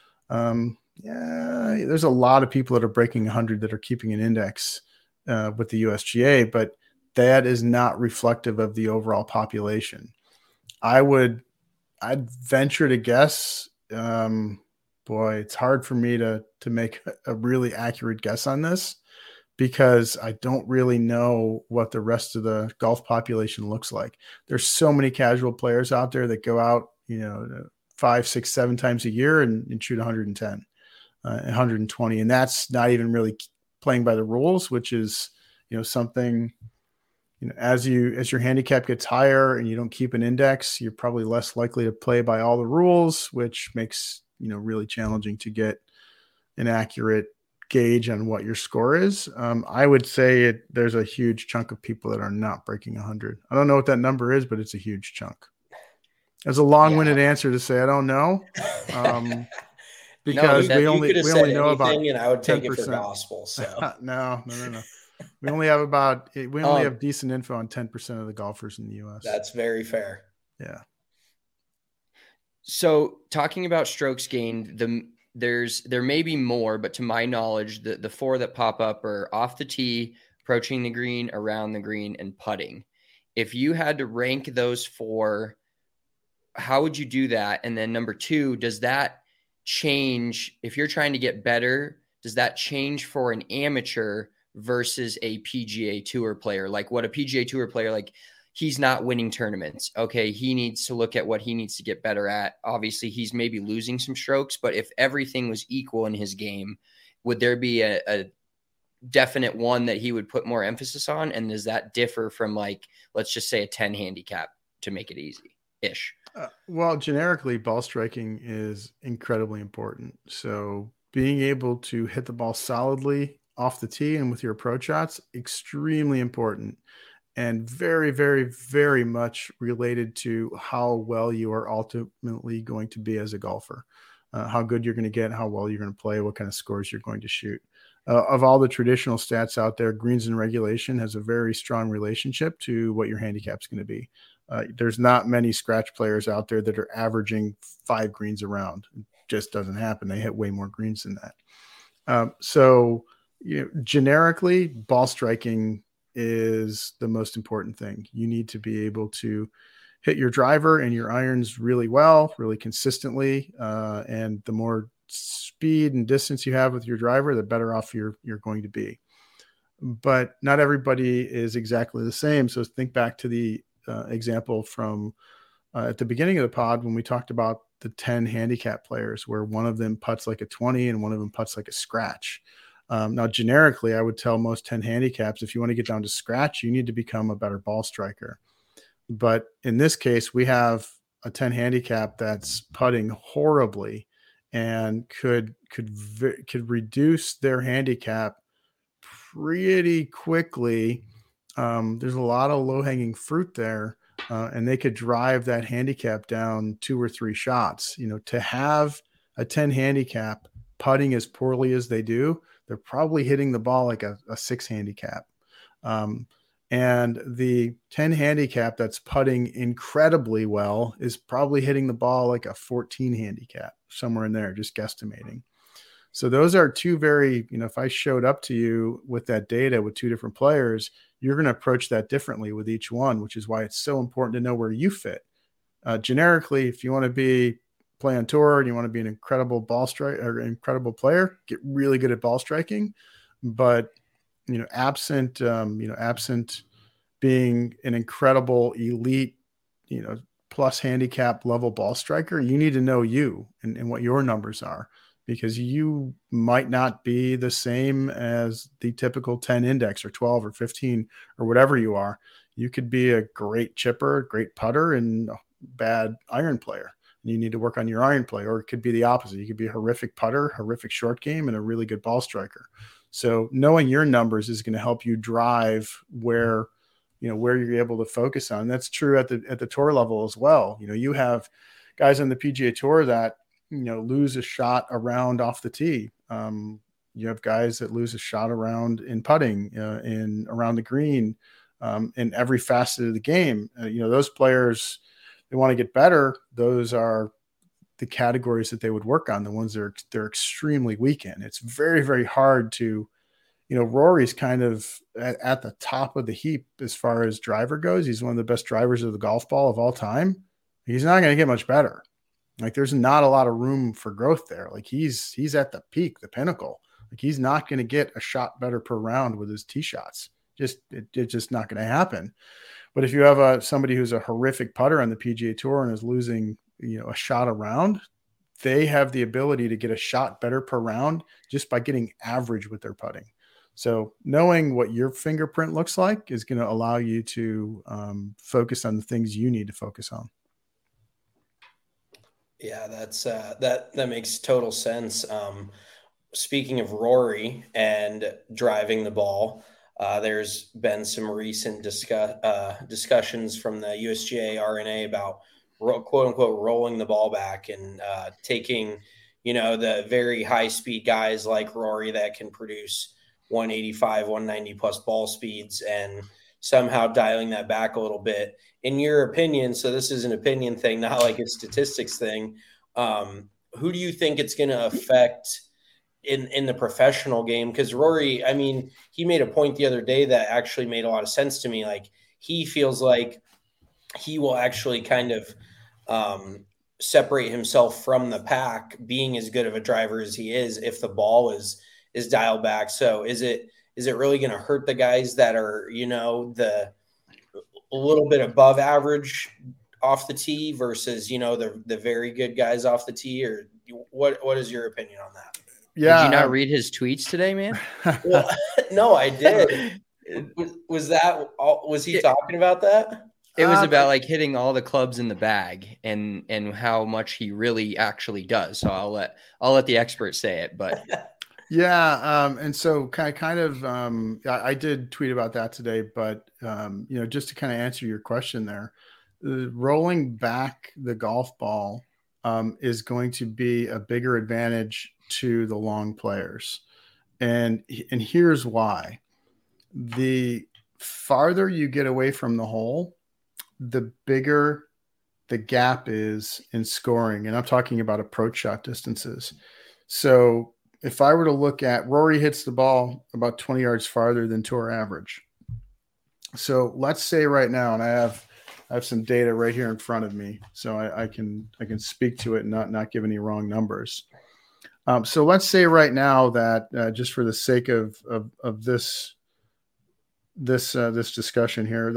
There's a lot of people that are breaking 100 that are keeping an index with the USGA, but that is not reflective of the overall population. I'd venture to guess, it's hard for me to make a really accurate guess on this because I don't really know what the rest of the golf population looks like. There's so many casual players out there that go out, 5, 6, 7 times a year and shoot 110, 120. And that's not even really playing by the rules, which is, something, as your handicap gets higher and you don't keep an index, you're probably less likely to play by all the rules, which makes, really challenging to get an accurate gauge on what your score is. I would say there's a huge chunk of people that are not breaking 100. I don't know what that number is, but it's a huge chunk. That's a long-winded answer to say I don't know, because we only know about, and I would take 10%. It for gospel. So no. We only have decent info on 10% of the golfers in the U.S. That's very fair. Yeah. So talking about strokes gained, there may be more, but to my knowledge, the 4 that pop up are off the tee, approaching the green, around the green, and putting. If you had to rank those 4, how would you do that? And then number 2, does that change if you're trying to get better? Does that change for an amateur versus a PGA Tour player? Like what a PGA Tour player, like he's not winning tournaments. Okay, he needs to look at what he needs to get better at. Obviously, he's maybe losing some strokes, but if everything was equal in his game, would there be a definite one that he would put more emphasis on? And does that differ from, like, let's just say a 10 handicap to make it easy-ish? Well, generically, ball striking is incredibly important. So being able to hit the ball solidly off the tee and with your approach shots, extremely important. And very, very, very much related to how well you are ultimately going to be as a golfer, how good you're going to get, how well you're going to play, what kind of scores you're going to shoot. Of all the traditional stats out there, greens and regulation has a very strong relationship to what your handicap's going to be. There's not many scratch players out there that are averaging 5 greens around. It just doesn't happen. They hit way more greens than that. So generically, ball striking is the most important thing. You need to be able to hit your driver and your irons really well, really consistently. And the more speed and distance you have with your driver, the better off you're going to be. But not everybody is exactly the same. So think back to the example from at the beginning of the pod when we talked about the 10 handicap players, where one of them putts like a 20 and one of them putts like a scratch. Now, generically, I would tell most 10 handicaps, if you want to get down to scratch, you need to become a better ball striker. But in this case, we have a 10 handicap that's putting horribly and could reduce their handicap pretty quickly. There's a lot of low-hanging fruit there, and they could drive that handicap down 2 or 3 shots. To have a 10 handicap putting as poorly as they do, they're probably hitting the ball like a 6 handicap. And the 10 handicap that's putting incredibly well is probably hitting the ball like a 14 handicap, somewhere in there, just guesstimating. So those are two very, if I showed up to you with that data with 2 different players, you're going to approach that differently with each one, which is why it's so important to know where you fit. Generically, if you want to play on tour and you want to be an incredible ball striker or incredible player, get really good at ball striking. But absent being an incredible elite, plus handicap level ball striker, you need to know you and what your numbers are, because you might not be the same as the typical 10 index or 12 or 15 or whatever you are. You could be a great chipper, great putter, and a bad iron player. You need to work on your iron play, or it could be the opposite. You could be a horrific putter, horrific short game, and a really good ball striker. So knowing your numbers is going to help you drive where you're able to focus on. That's true at the tour level as well. You have guys on the PGA Tour that, lose a shot around off the tee. You have guys that lose a shot around in putting, in around the green, in every facet of the game. Those players, they want to get better. Those are the categories that they would work on, the ones they're extremely weak in. It's very, very hard to, Rory's kind of at the top of the heap as far as driver goes. He's one of the best drivers of the golf ball of all time. He's not going to get much better. Like, there's not a lot of room for growth there. Like, he's at the peak, the pinnacle. Like, he's not going to get a shot better per round with his tee shots. It's just not going to happen. But if you have somebody who's a horrific putter on the PGA Tour and is losing, a shot a round, they have the ability to get a shot better per round just by getting average with their putting. So knowing what your fingerprint looks like is going to allow you to focus on the things you need to focus on. Yeah, that's that makes total sense. Speaking of Rory and driving the ball, there's been some recent discussions from the USGA RNA about quote unquote rolling the ball back and taking, the very high speed guys like Rory that can produce 185, 190 plus ball speeds, and somehow dialing that back a little bit. In your opinion, so this is an opinion thing, not like a statistics thing, who do you think it's going to affect in the professional game? Because Rory, he made a point the other day that actually made a lot of sense to me. Like, he feels like he will actually kind of separate himself from the pack, being as good of a driver as he is, if the ball is dialed back. So is it really going to hurt the guys that are, the a little bit above average off the tee versus, the very good guys off the tee? Or what is your opinion on that? Yeah. Did you not read his tweets today, man? Well, no, I did. Was he talking about that? It was about like hitting all the clubs in the bag and how much he really actually does. So I'll let the experts say it, but yeah. And so I did tweet about that today, but just to kind of answer your question there, rolling back the golf ball is going to be a bigger advantage to the long players. And here's why. The farther you get away from the hole, the bigger the gap is in scoring. And I'm talking about approach shot distances. So if I were to look at Rory hits the ball about 20 yards farther than tour average. So let's say right now, and I have some data right here in front of me, so I can speak to it and not give any wrong numbers. So let's say right now that just for the sake of this discussion here, that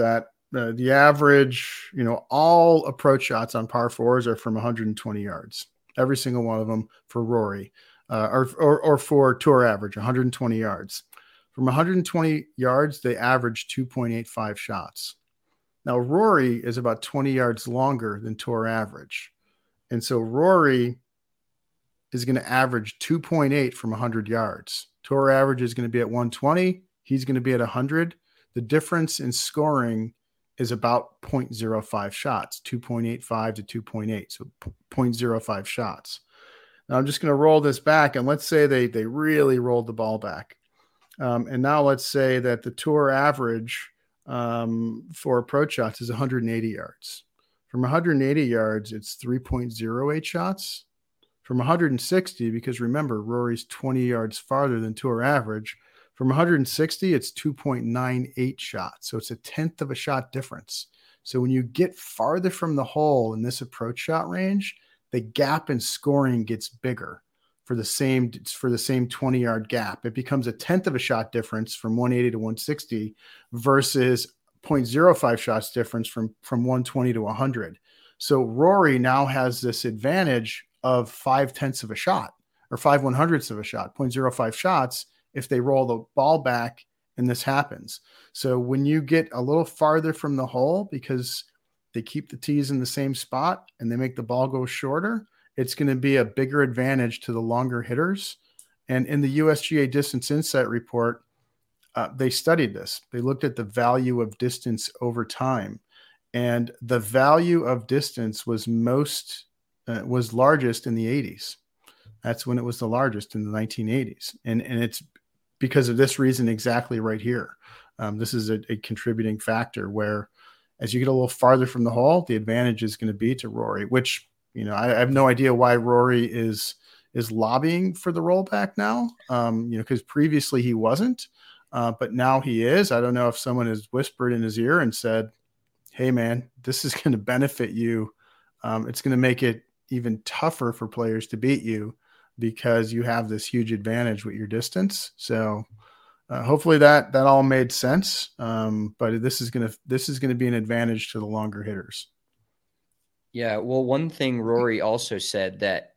the average, all approach shots on par fours are from 120 yards. Every single one of them for Rory, or for tour average, 120 yards. From 120 yards, they average 2.85 shots. Now, Rory is about 20 yards longer than tour average. And so Rory is going to average 2.8 from 100 yards. Tour average is going to be at 120. He's going to be at 100. The difference in scoring is about 0.05 shots, 2.85 to 2.8, so 0.05 shots. Now I'm just going to roll this back, and let's say they really rolled the ball back. And now let's say that the tour average for approach shots is 180 yards. From 180 yards, it's 3.08 shots. From 160, because remember, Rory's 20 yards farther than tour average, from 160, it's 2.98 shots. So it's a tenth of a shot difference. So when you get farther from the hole in this approach shot range, the gap in scoring gets bigger for the same 20-yard gap. It becomes a tenth of a shot difference from 180 to 160 versus 0.05 shots difference from 120 to 100. So Rory now has this advantage of 0.5 of a shot or 0.05 of a shot, 0.05 shots if they roll the ball back and this happens. So when you get a little farther from the hole because they keep the tees in the same spot and they make the ball go shorter, it's going to be a bigger advantage to the longer hitters. And in the USGA Distance Insight report, they studied this. They looked at the value of distance over time, and the value of distance was largest in the 80s. That's when it was the largest, in the 1980s. And it's because of this reason exactly right here. This is a contributing factor where as you get a little farther from the hole, the advantage is going to be to Rory, which, I have no idea why Rory is lobbying for the rollback now, because previously he wasn't, but now he is. I don't know if someone has whispered in his ear and said, hey, man, this is going to benefit you. It's going to make it even tougher for players to beat you because you have this huge advantage with your distance. So hopefully that all made sense. But this is going to be an advantage to the longer hitters. Yeah. Well, one thing Rory also said that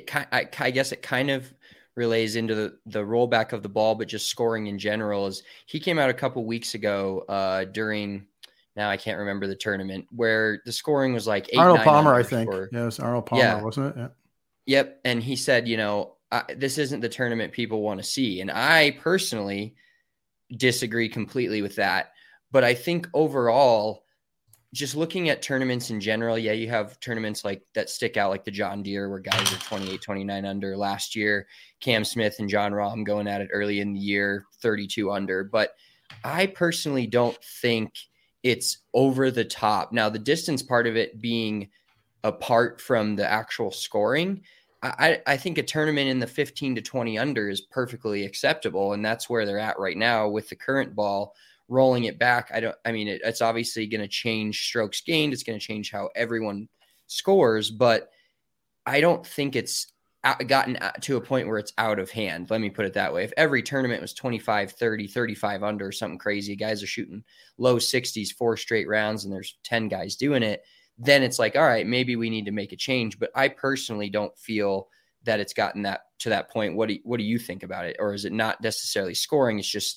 I guess it kind of relays into the rollback of the ball, but just scoring in general, is he came out a couple weeks ago during, now I can't remember the tournament, where the scoring was like 8, Arnold 9 Palmer, under I think. Yeah, it was Arnold Palmer, yeah. Wasn't it? Yeah. Yep. And he said, this isn't the tournament people want to see. And I personally disagree completely with that. But I think overall, just looking at tournaments in general, yeah, you have tournaments like that stick out, like the John Deere, where guys are 28, 29 under. Last year, Cam Smith and John Rahm going at it early in the year, 32 under. But I personally don't think it's over the top. Now, the distance part of it being apart from the actual scoring, I think a tournament in the 15 to 20 under is perfectly acceptable. And that's where they're at right now with the current ball. Rolling it back, it's obviously going to change strokes gained. It's going to change how everyone scores, but I don't think it's gotten to a point where it's out of hand. Let me put it that way. If every tournament was 25, 30, 35 under or something crazy, guys are shooting low 60s, 4 straight rounds, and there's 10 guys doing it, then it's like, all right, maybe we need to make a change. But I personally don't feel that it's gotten to that point. What do you think about it? Or is it not necessarily scoring? It's just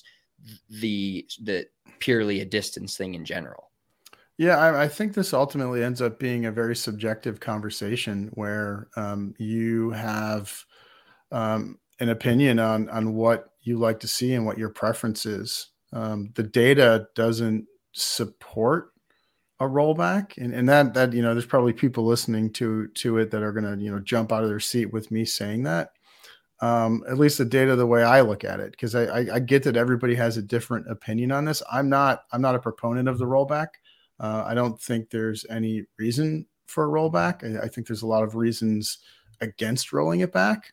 the purely a distance thing in general? Yeah, I think this ultimately ends up being a very subjective conversation where you have an opinion on what you like to see and what your preference is. The data doesn't support a rollback, and that there's probably people listening to it that are going to jump out of their seat with me saying that. At least the data, the way I look at it, because I get that everybody has a different opinion on this. I'm not a proponent of the rollback. I don't think there's any reason for a rollback. I think there's a lot of reasons against rolling it back.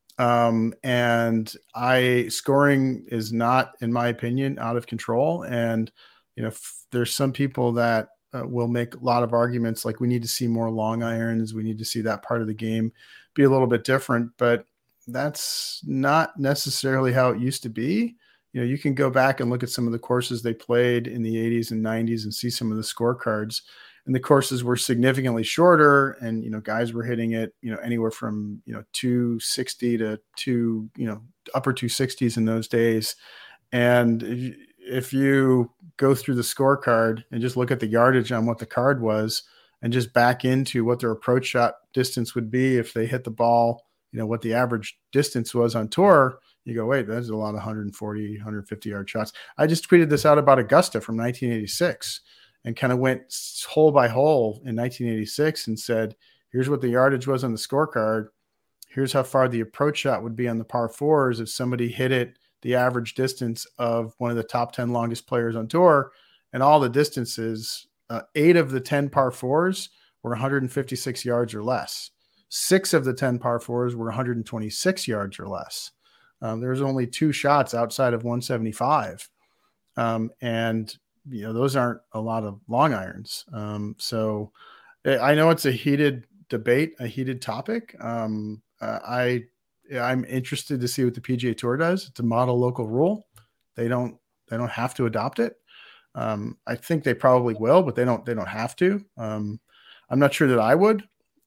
And scoring is not, in my opinion, out of control. And, there's some people that will make a lot of arguments like we need to see more long irons. We need to see that part of the game be a little bit different, but that's not necessarily how it used to be. you can go back and look at some of the courses they played in the 80s and 90s and see some of the scorecards. And the courses were significantly shorter, and guys were hitting it anywhere from 260 to upper 260s in those days. And if you go through the scorecard and just look at the yardage on what the card was and just back into what their approach shot distance would be if they hit the ball, what the average distance was on tour, you go, wait, that's a lot of 140, 150 yard shots. I just tweeted this out about Augusta from 1986 and kind of went hole by hole in 1986 and said, here's what the yardage was on the scorecard. Here's how far the approach shot would be on the par fours if somebody hit it the average distance of one of the top 10 longest players on tour. And all the distances, 8 of the 10 par fours were 156 yards or less. 6 of the 10 par fours were 126 yards or less. There's only 2 shots outside of 175. And those aren't a lot of long irons. So I know it's a heated debate, a heated topic. I'm interested to see what the PGA Tour does. It's a model local rule. They don't have to adopt it. I think they probably will, but they don't have to. I'm not sure that I would.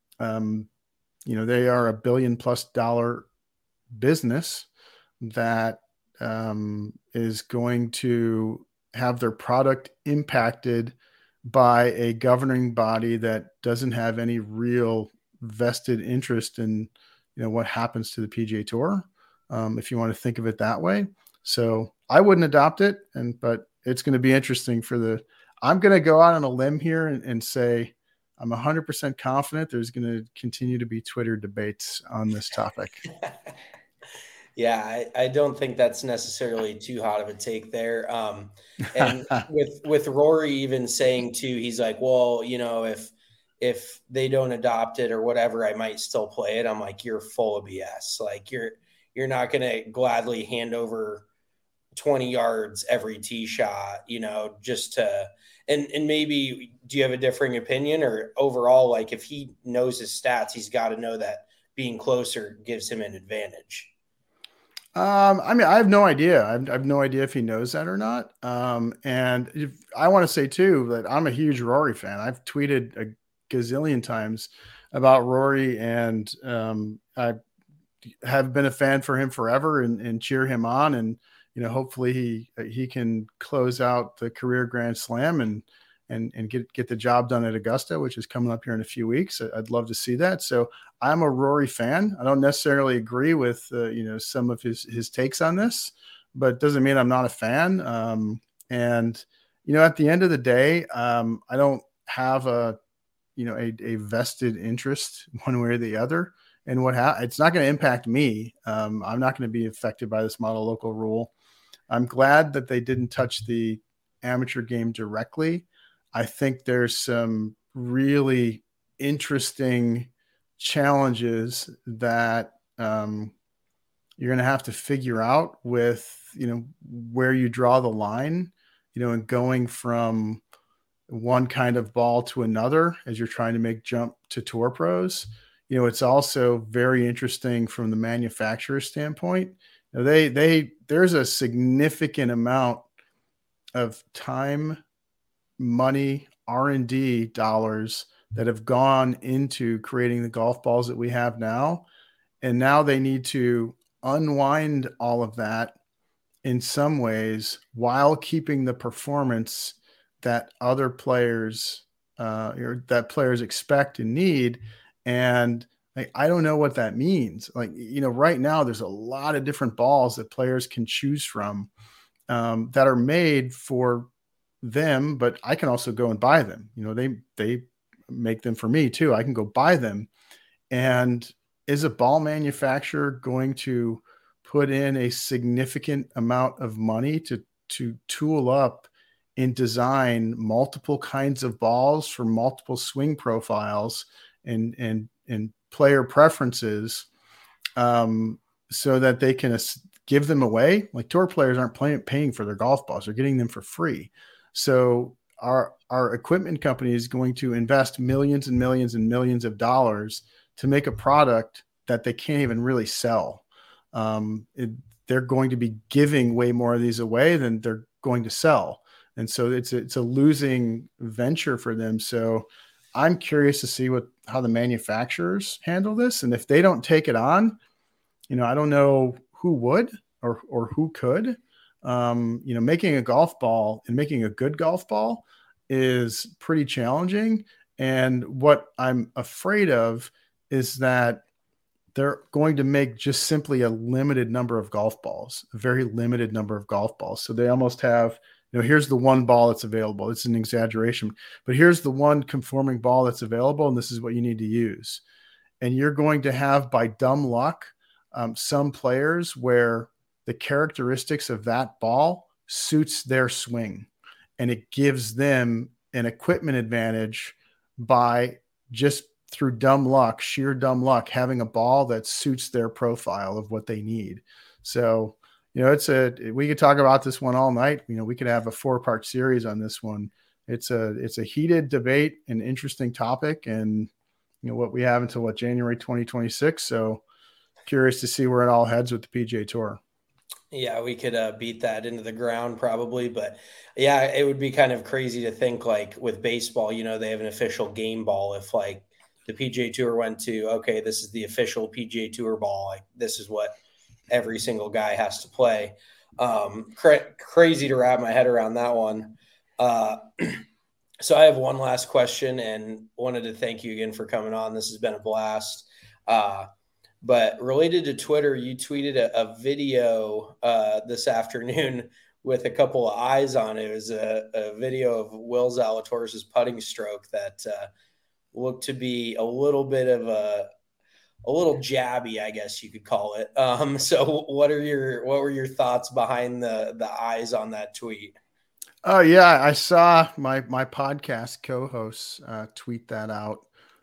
They are $1 billion+ business that is going to have their product impacted by a governing body that doesn't have any real vested interest in what happens to the PGA Tour, if you want to think of it that way. So I wouldn't adopt it, but it's going to be interesting I'm going to go out on a limb here and say I'm 100% confident there's going to continue to be Twitter debates on this topic. Yeah, I don't think that's necessarily too hot of a take there. And with Rory even saying too, he's like, well, if they don't adopt it or whatever, I might still play it. I'm like, you're full of BS. Like you're not going to gladly hand over 20 yards every tee shot, just to, and maybe do you have a differing opinion, or overall, like if he knows his stats, he's got to know that being closer gives him an advantage. I have no idea. I have no idea if he knows that or not. And I want to say too, that I'm a huge Rory fan. I've tweeted a gazillion times about Rory, and I have been a fan for him forever and cheer him on. And, hopefully he can close out the career Grand Slam and get the job done at Augusta, which is coming up here in a few weeks. I'd love to see that. So I'm a Rory fan. I don't necessarily agree with, some of his takes on this, but it doesn't mean I'm not a fan. And at the end of the day, I don't have a vested interest one way or the other. And it's not going to impact me. I'm not going to be affected by this model local rule. I'm glad that they didn't touch the amateur game directly. I think there's some really interesting challenges that you're going to have to figure out with, where you draw the line, and going from one kind of ball to another as you're trying to make jump to tour pros. It's also very interesting from the manufacturer standpoint. There's a significant amount of time, money, R&D dollars that have gone into creating the golf balls that we have now. And now they need to unwind all of that in some ways while keeping the performance that other players or that players expect and need. And I don't know what that means. Right now there's a lot of different balls that players can choose from that are made for them, but I can also go and buy them. They make them for me too. I can go buy them. And is a ball manufacturer going to put in a significant amount of money to tool up and design multiple kinds of balls for multiple swing profiles and player preferences, so that they can give them away? Like, tour players aren't paying for their golf balls; they're getting them for free. So our equipment company is going to invest millions and millions and millions of dollars to make a product that they can't even really sell. they're going to be giving way more of these away than they're going to sell. And so it's a losing venture for them. So I'm curious to see how the manufacturers handle this. And if they don't take it on, I don't know who would or who could. Making a golf ball and making a good golf ball is pretty challenging. And what I'm afraid of is that they're going to make just simply a limited number of golf balls, a very limited number of golf balls. So they almost have, here's the one ball that's available. It's an exaggeration, but here's the one conforming ball that's available, and this is what you need to use. And you're going to have, by dumb luck, some players where the characteristics of that ball suits their swing, and it gives them an equipment advantage by just through sheer dumb luck, having a ball that suits their profile of what they need. So, we could talk about this one all night. We could have a 4-part series on this one. It's a heated debate, an interesting topic, and what we have until January 2026. So curious to see where it all heads with the PGA Tour. Yeah, we could beat that into the ground probably, but yeah, it would be kind of crazy to think like with baseball, they have an official game ball. If like the PGA Tour went to, okay, this is the official PGA Tour ball, like this is what every single guy has to play. Crazy to wrap my head around that one. So I have one last question and wanted to thank you again for coming on. This has been a blast. But related to Twitter, you tweeted a video this afternoon with a couple of eyes on it. It was a video of Will Zalatoris' putting stroke that looked to be a little bit of a little jabby, I guess you could call it. So what were your thoughts behind the eyes on that tweet? Oh yeah, I saw my podcast co-hosts tweet that out.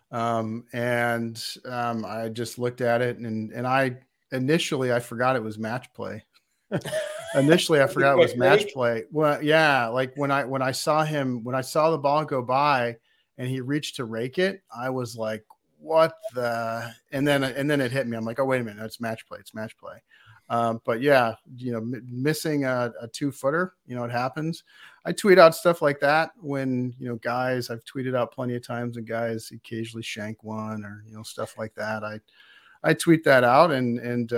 I just looked at it and I forgot it was match play. Initially, I forgot it was match play. Well, yeah. Like when I saw the ball go by and he reached to rake it, I was like, what the, and then it hit me. I'm like, oh, wait a minute. It's match play. It's match play. But yeah, missing a 2-footer, it happens. I tweet out stuff like that when, guys, I've tweeted out plenty of times and guys occasionally shank one or, stuff like that. I tweet that out and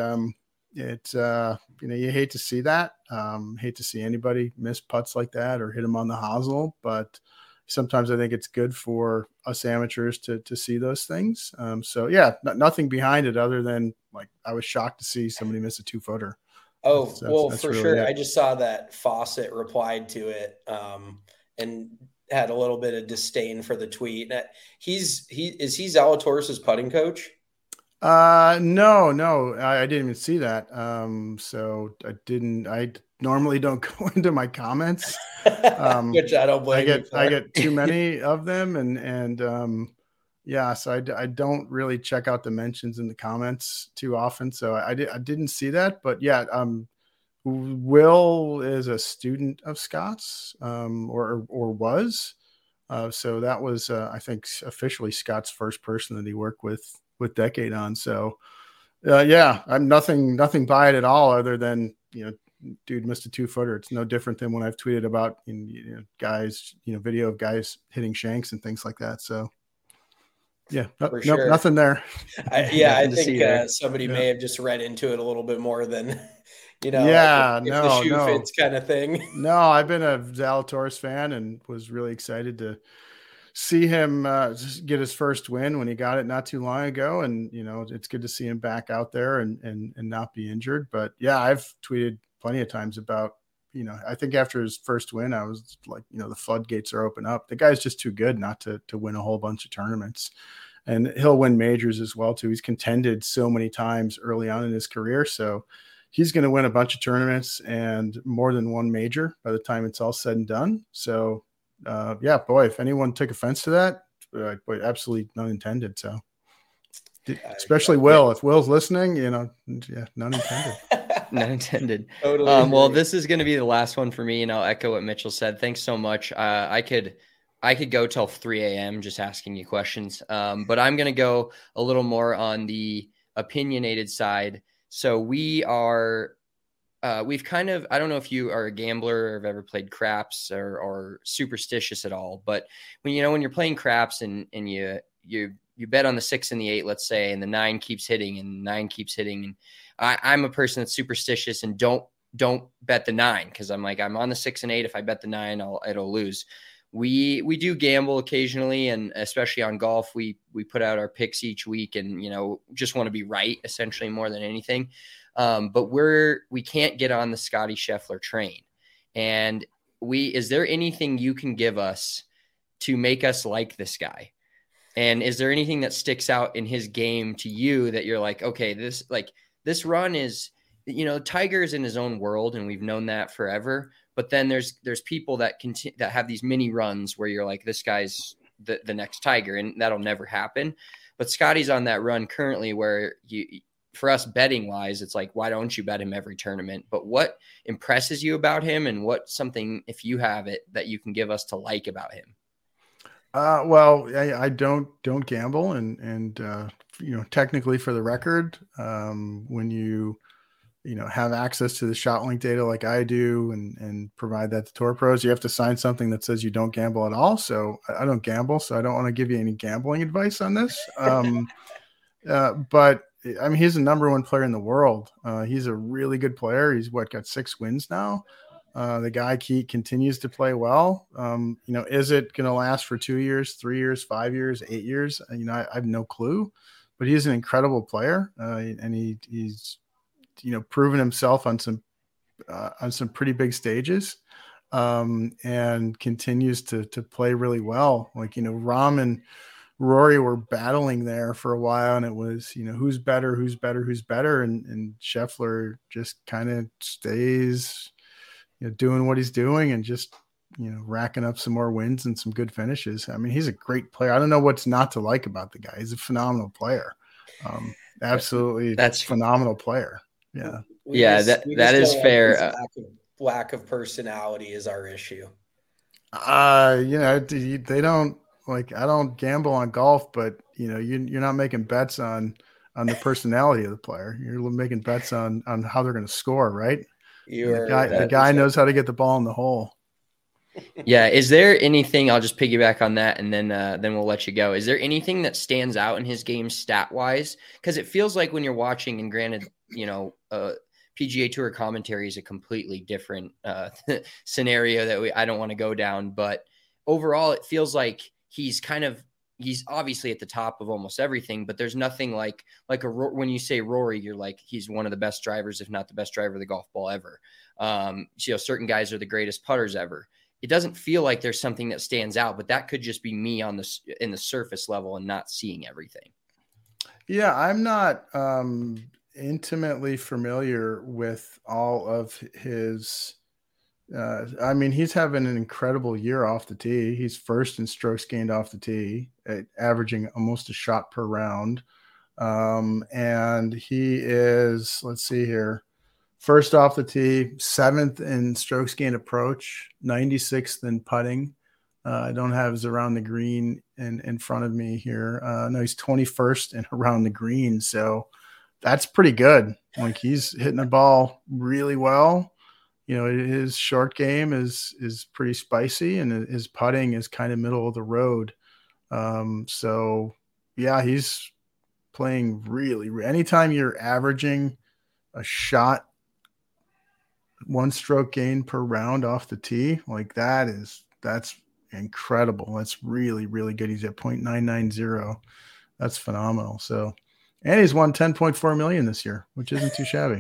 you hate to see that. Hate to see anybody miss putts like that or hit them on the hosel, but sometimes I think it's good for us amateurs to see those things. So yeah, nothing behind it other than like, I was shocked to see somebody miss a 2-footer. Oh, that's for really sure. It. I just saw that Fawcett replied to it and had a little bit of disdain for the tweet. Is he Zalatoris' putting coach? No, I didn't even see that. So I normally don't go into my comments. Which I don't blame you for. I get too many of them and yeah, so I don't really check out the mentions in the comments too often. So I didn't see that, but yeah, Will is a student of Scott's, or was. So that was, I think, officially Scott's first person that he worked with Decade on. So yeah, I'm nothing by it at all other than, dude missed a 2-footer. It's no different than when I've tweeted about guys, video of guys hitting shanks and things like that. So yeah, sure. Nothing there. I think somebody may have just read into it a little bit more than, yeah, if the shoe fits kind of thing. No, I've been a Zalatoris fan and was really excited to see him get his first win when he got it not too long ago. And, it's good to see him back out there and not be injured. But yeah, I've tweeted plenty of times about, I think after his first win, I was like, the floodgates are open up. The guy's just too good not to win a whole bunch of tournaments, and he'll win majors as well too. He's contended so many times early on in his career. So he's going to win a bunch of tournaments and more than one major by the time it's all said and done. So yeah, boy, if anyone took offense to that, boy, absolutely none intended. So especially Will, if Will's listening, yeah, none intended. None intended. Totally well, this is going to be the last one for me, and I'll echo what Mitchell said. Thanks so much. I could go till 3 a.m. just asking you questions, but I'm going to go a little more on the opinionated side. So we are we've kind of, I don't know if you are a gambler or have ever played craps or superstitious at all, but when you're playing craps and you bet on the 6 and the 8, let's say, and the 9 keeps hitting and 9 keeps hitting. And I'm a person that's superstitious and don't bet the 9. Cause I'm like, I'm on the 6 and 8. If I bet the 9, it'll lose. We do gamble occasionally. And especially on golf, we put out our picks each week and, just want to be right essentially more than anything. But we can't get on the Scotty Scheffler train. And is there anything you can give us to make us like this guy? And is there anything that sticks out in his game to you that you're like, okay, this run is, Tiger's in his own world and we've known that forever. But then there's people that have these mini runs where you're like, this guy's the next Tiger, and that'll never happen. But Scotty's on that run currently where for us betting wise, it's like, why don't you bet him every tournament? But what impresses you about him, and what something, if you have it, that you can give us to like about him? Well, I don't gamble, and technically, for the record, when you have access to the ShotLink data like I do and provide that to Tour Pros, you have to sign something that says you don't gamble at all. So I don't gamble, so I don't want to give you any gambling advice on this. But I mean, he's the number 1 player in the world. He's a really good player. He's got 6 wins now. The guy continues to play well. Is it going to last for 2 years, 3 years, 5 years, 8 years? I have no clue, but he's an incredible player. And he's proven himself on some pretty big stages, and continues to play really well. Rahm and Rory were battling there for a while, and it was, who's better, and Scheffler just kind of stays, doing what he's doing and just, racking up some more wins and some good finishes. I mean, he's a great player. I don't know what's not to like about the guy. He's a phenomenal player. Absolutely. That's phenomenal player. Yeah. That is fair. Lack of personality is our issue. They don't, I don't gamble on golf, but you're not making bets on the personality of the player. You're making bets on how they're going to score, right? The guy knows how to get the ball in the hole. Yeah. Is there anything, I'll just piggyback on that and then we'll let you go. Is there anything that stands out in his game stat wise? Because it feels like when you're watching, and granted, PGA Tour commentary is a completely different scenario that I don't want to go down, but overall it feels like he's obviously at the top of almost everything, but there's nothing like when you say Rory, you're like, he's one of the best drivers, if not the best driver of the golf ball ever. Certain guys are the greatest putters ever. It doesn't feel like there's something that stands out, but that could just be me in the surface level and not seeing everything. Yeah. I'm not intimately familiar with all of his, he's having an incredible year off the tee. He's first in strokes gained off the tee, averaging almost a shot per round. And he is, let's see here, first off the tee, 7th in strokes gained approach, 96th in putting. I don't have his around the green in front of me here. No, he's 21st in around the green. So that's pretty good. He's hitting the ball really well. His short game is pretty spicy, and his putting is kind of middle of the road. So yeah, he's playing really. Anytime you're averaging a shot, 1 stroke gain per round off the tee, that's incredible. That's really, really good. He's at 0.990. That's phenomenal. So, and he's won 10.4 million this year, which isn't too shabby.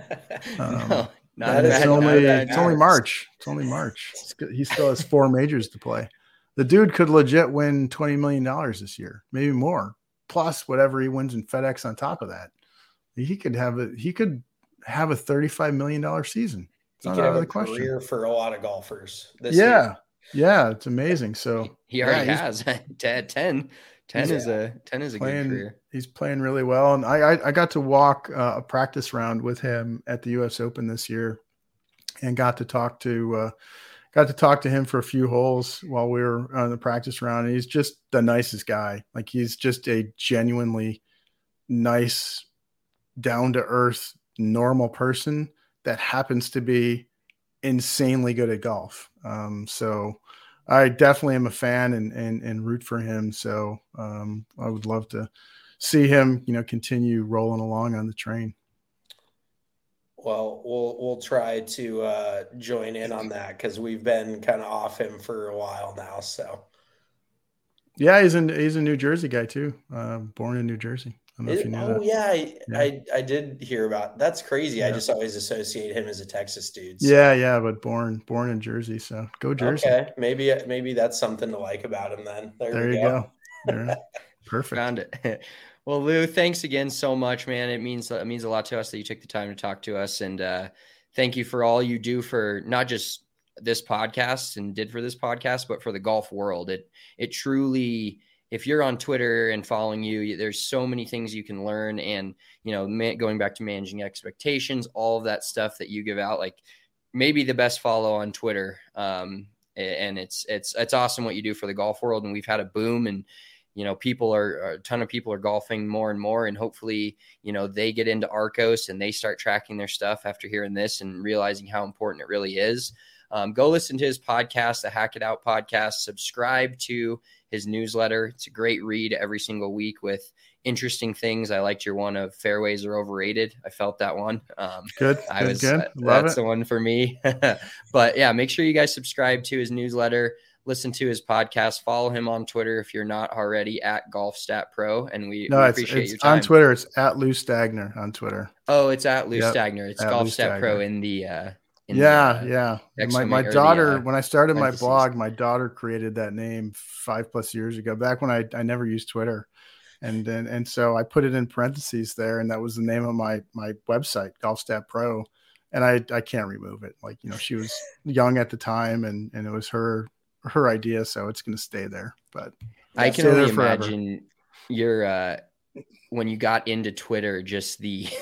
It's only March. He still has 4 majors to play. The dude could legit win $20 million this year, maybe more, plus whatever he wins in FedEx on top of that. He could have a $35 million season. It's not out of the question. Career for a lot of golfers. Yeah, it's amazing. So he already has 10. 10 is a good career. He's playing really well. And I got to walk a practice round with him at the US Open this year, and got to talk to him for a few holes while we were on the practice round. And he's just the nicest guy. He's just a genuinely nice, down to earth, normal person that happens to be insanely good at golf. So I definitely am a fan and root for him. So I would love to see him, continue rolling along on the train. Well, we'll try to join in on that because we've been kind of off him for a while now. So yeah, he's a New Jersey guy too. Born in New Jersey. I don't know if you knew that. Yeah, I did hear about. That's crazy. Yeah. I just always associate him as a Texas dude. So. Yeah, but born in Jersey. So go Jersey. Okay, maybe that's something to like about him then. There you go. There. Perfect. Found it. Well, Lou, thanks again so much, man. It means a lot to us that you took the time to talk to us, and thank you for all you do for not just this podcast and did for this podcast, but for the golf world. It truly, if you're on Twitter and following you, there's so many things you can learn, and going back to managing expectations, all of that stuff that you give out, like maybe the best follow on Twitter. And it's awesome what you do for the golf world, and we've had a boom, and a ton of people are golfing more and more, and hopefully, they get into Arccos and they start tracking their stuff after hearing this and realizing how important it really is. Go listen to his podcast, the Hack It Out podcast, subscribe to his newsletter. It's a great read every single week with interesting things. I liked your one of fairways are overrated. I felt that one. Good. That's the one for me. But yeah, make sure you guys subscribe to his newsletter. Listen to his podcast. Follow him on Twitter if you're not already at GolfStatPro. And we appreciate your time. On Twitter. It's at Lou Stagner on Twitter. Oh, it's at Lou Stagner. It's GolfStatPro in the yeah. My daughter, when I started my blog, my daughter created that name 5+ years ago, back when I never used Twitter. And so I put it in parentheses there, and that was the name of my website, GolfStatPro. And I can't remove it. Like, she was young at the time, and it was her idea, so it's going to stay there. But I can only imagine when you got into Twitter, just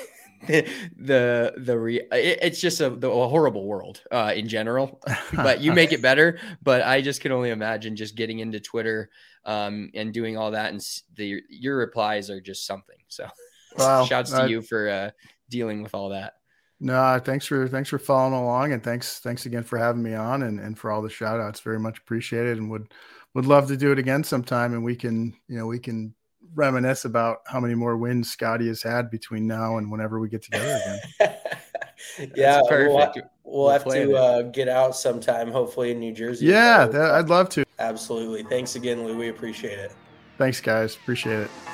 it's just a horrible world in general, but you make it better. But I just can only imagine just getting into Twitter and doing all that, and your replies are just something. So shouts to you for dealing with all that. No, thanks for following along, and thanks again for having me on, and for all the shout outs. Very much appreciated, and would love to do it again sometime, and we can reminisce about how many more wins Scotty has had between now and whenever we get together again. Yeah, perfect. We'll have to get out sometime, hopefully in New Jersey. Yeah, I'd love to. Absolutely. Thanks again, Lou. We appreciate it. Thanks, guys. Appreciate it.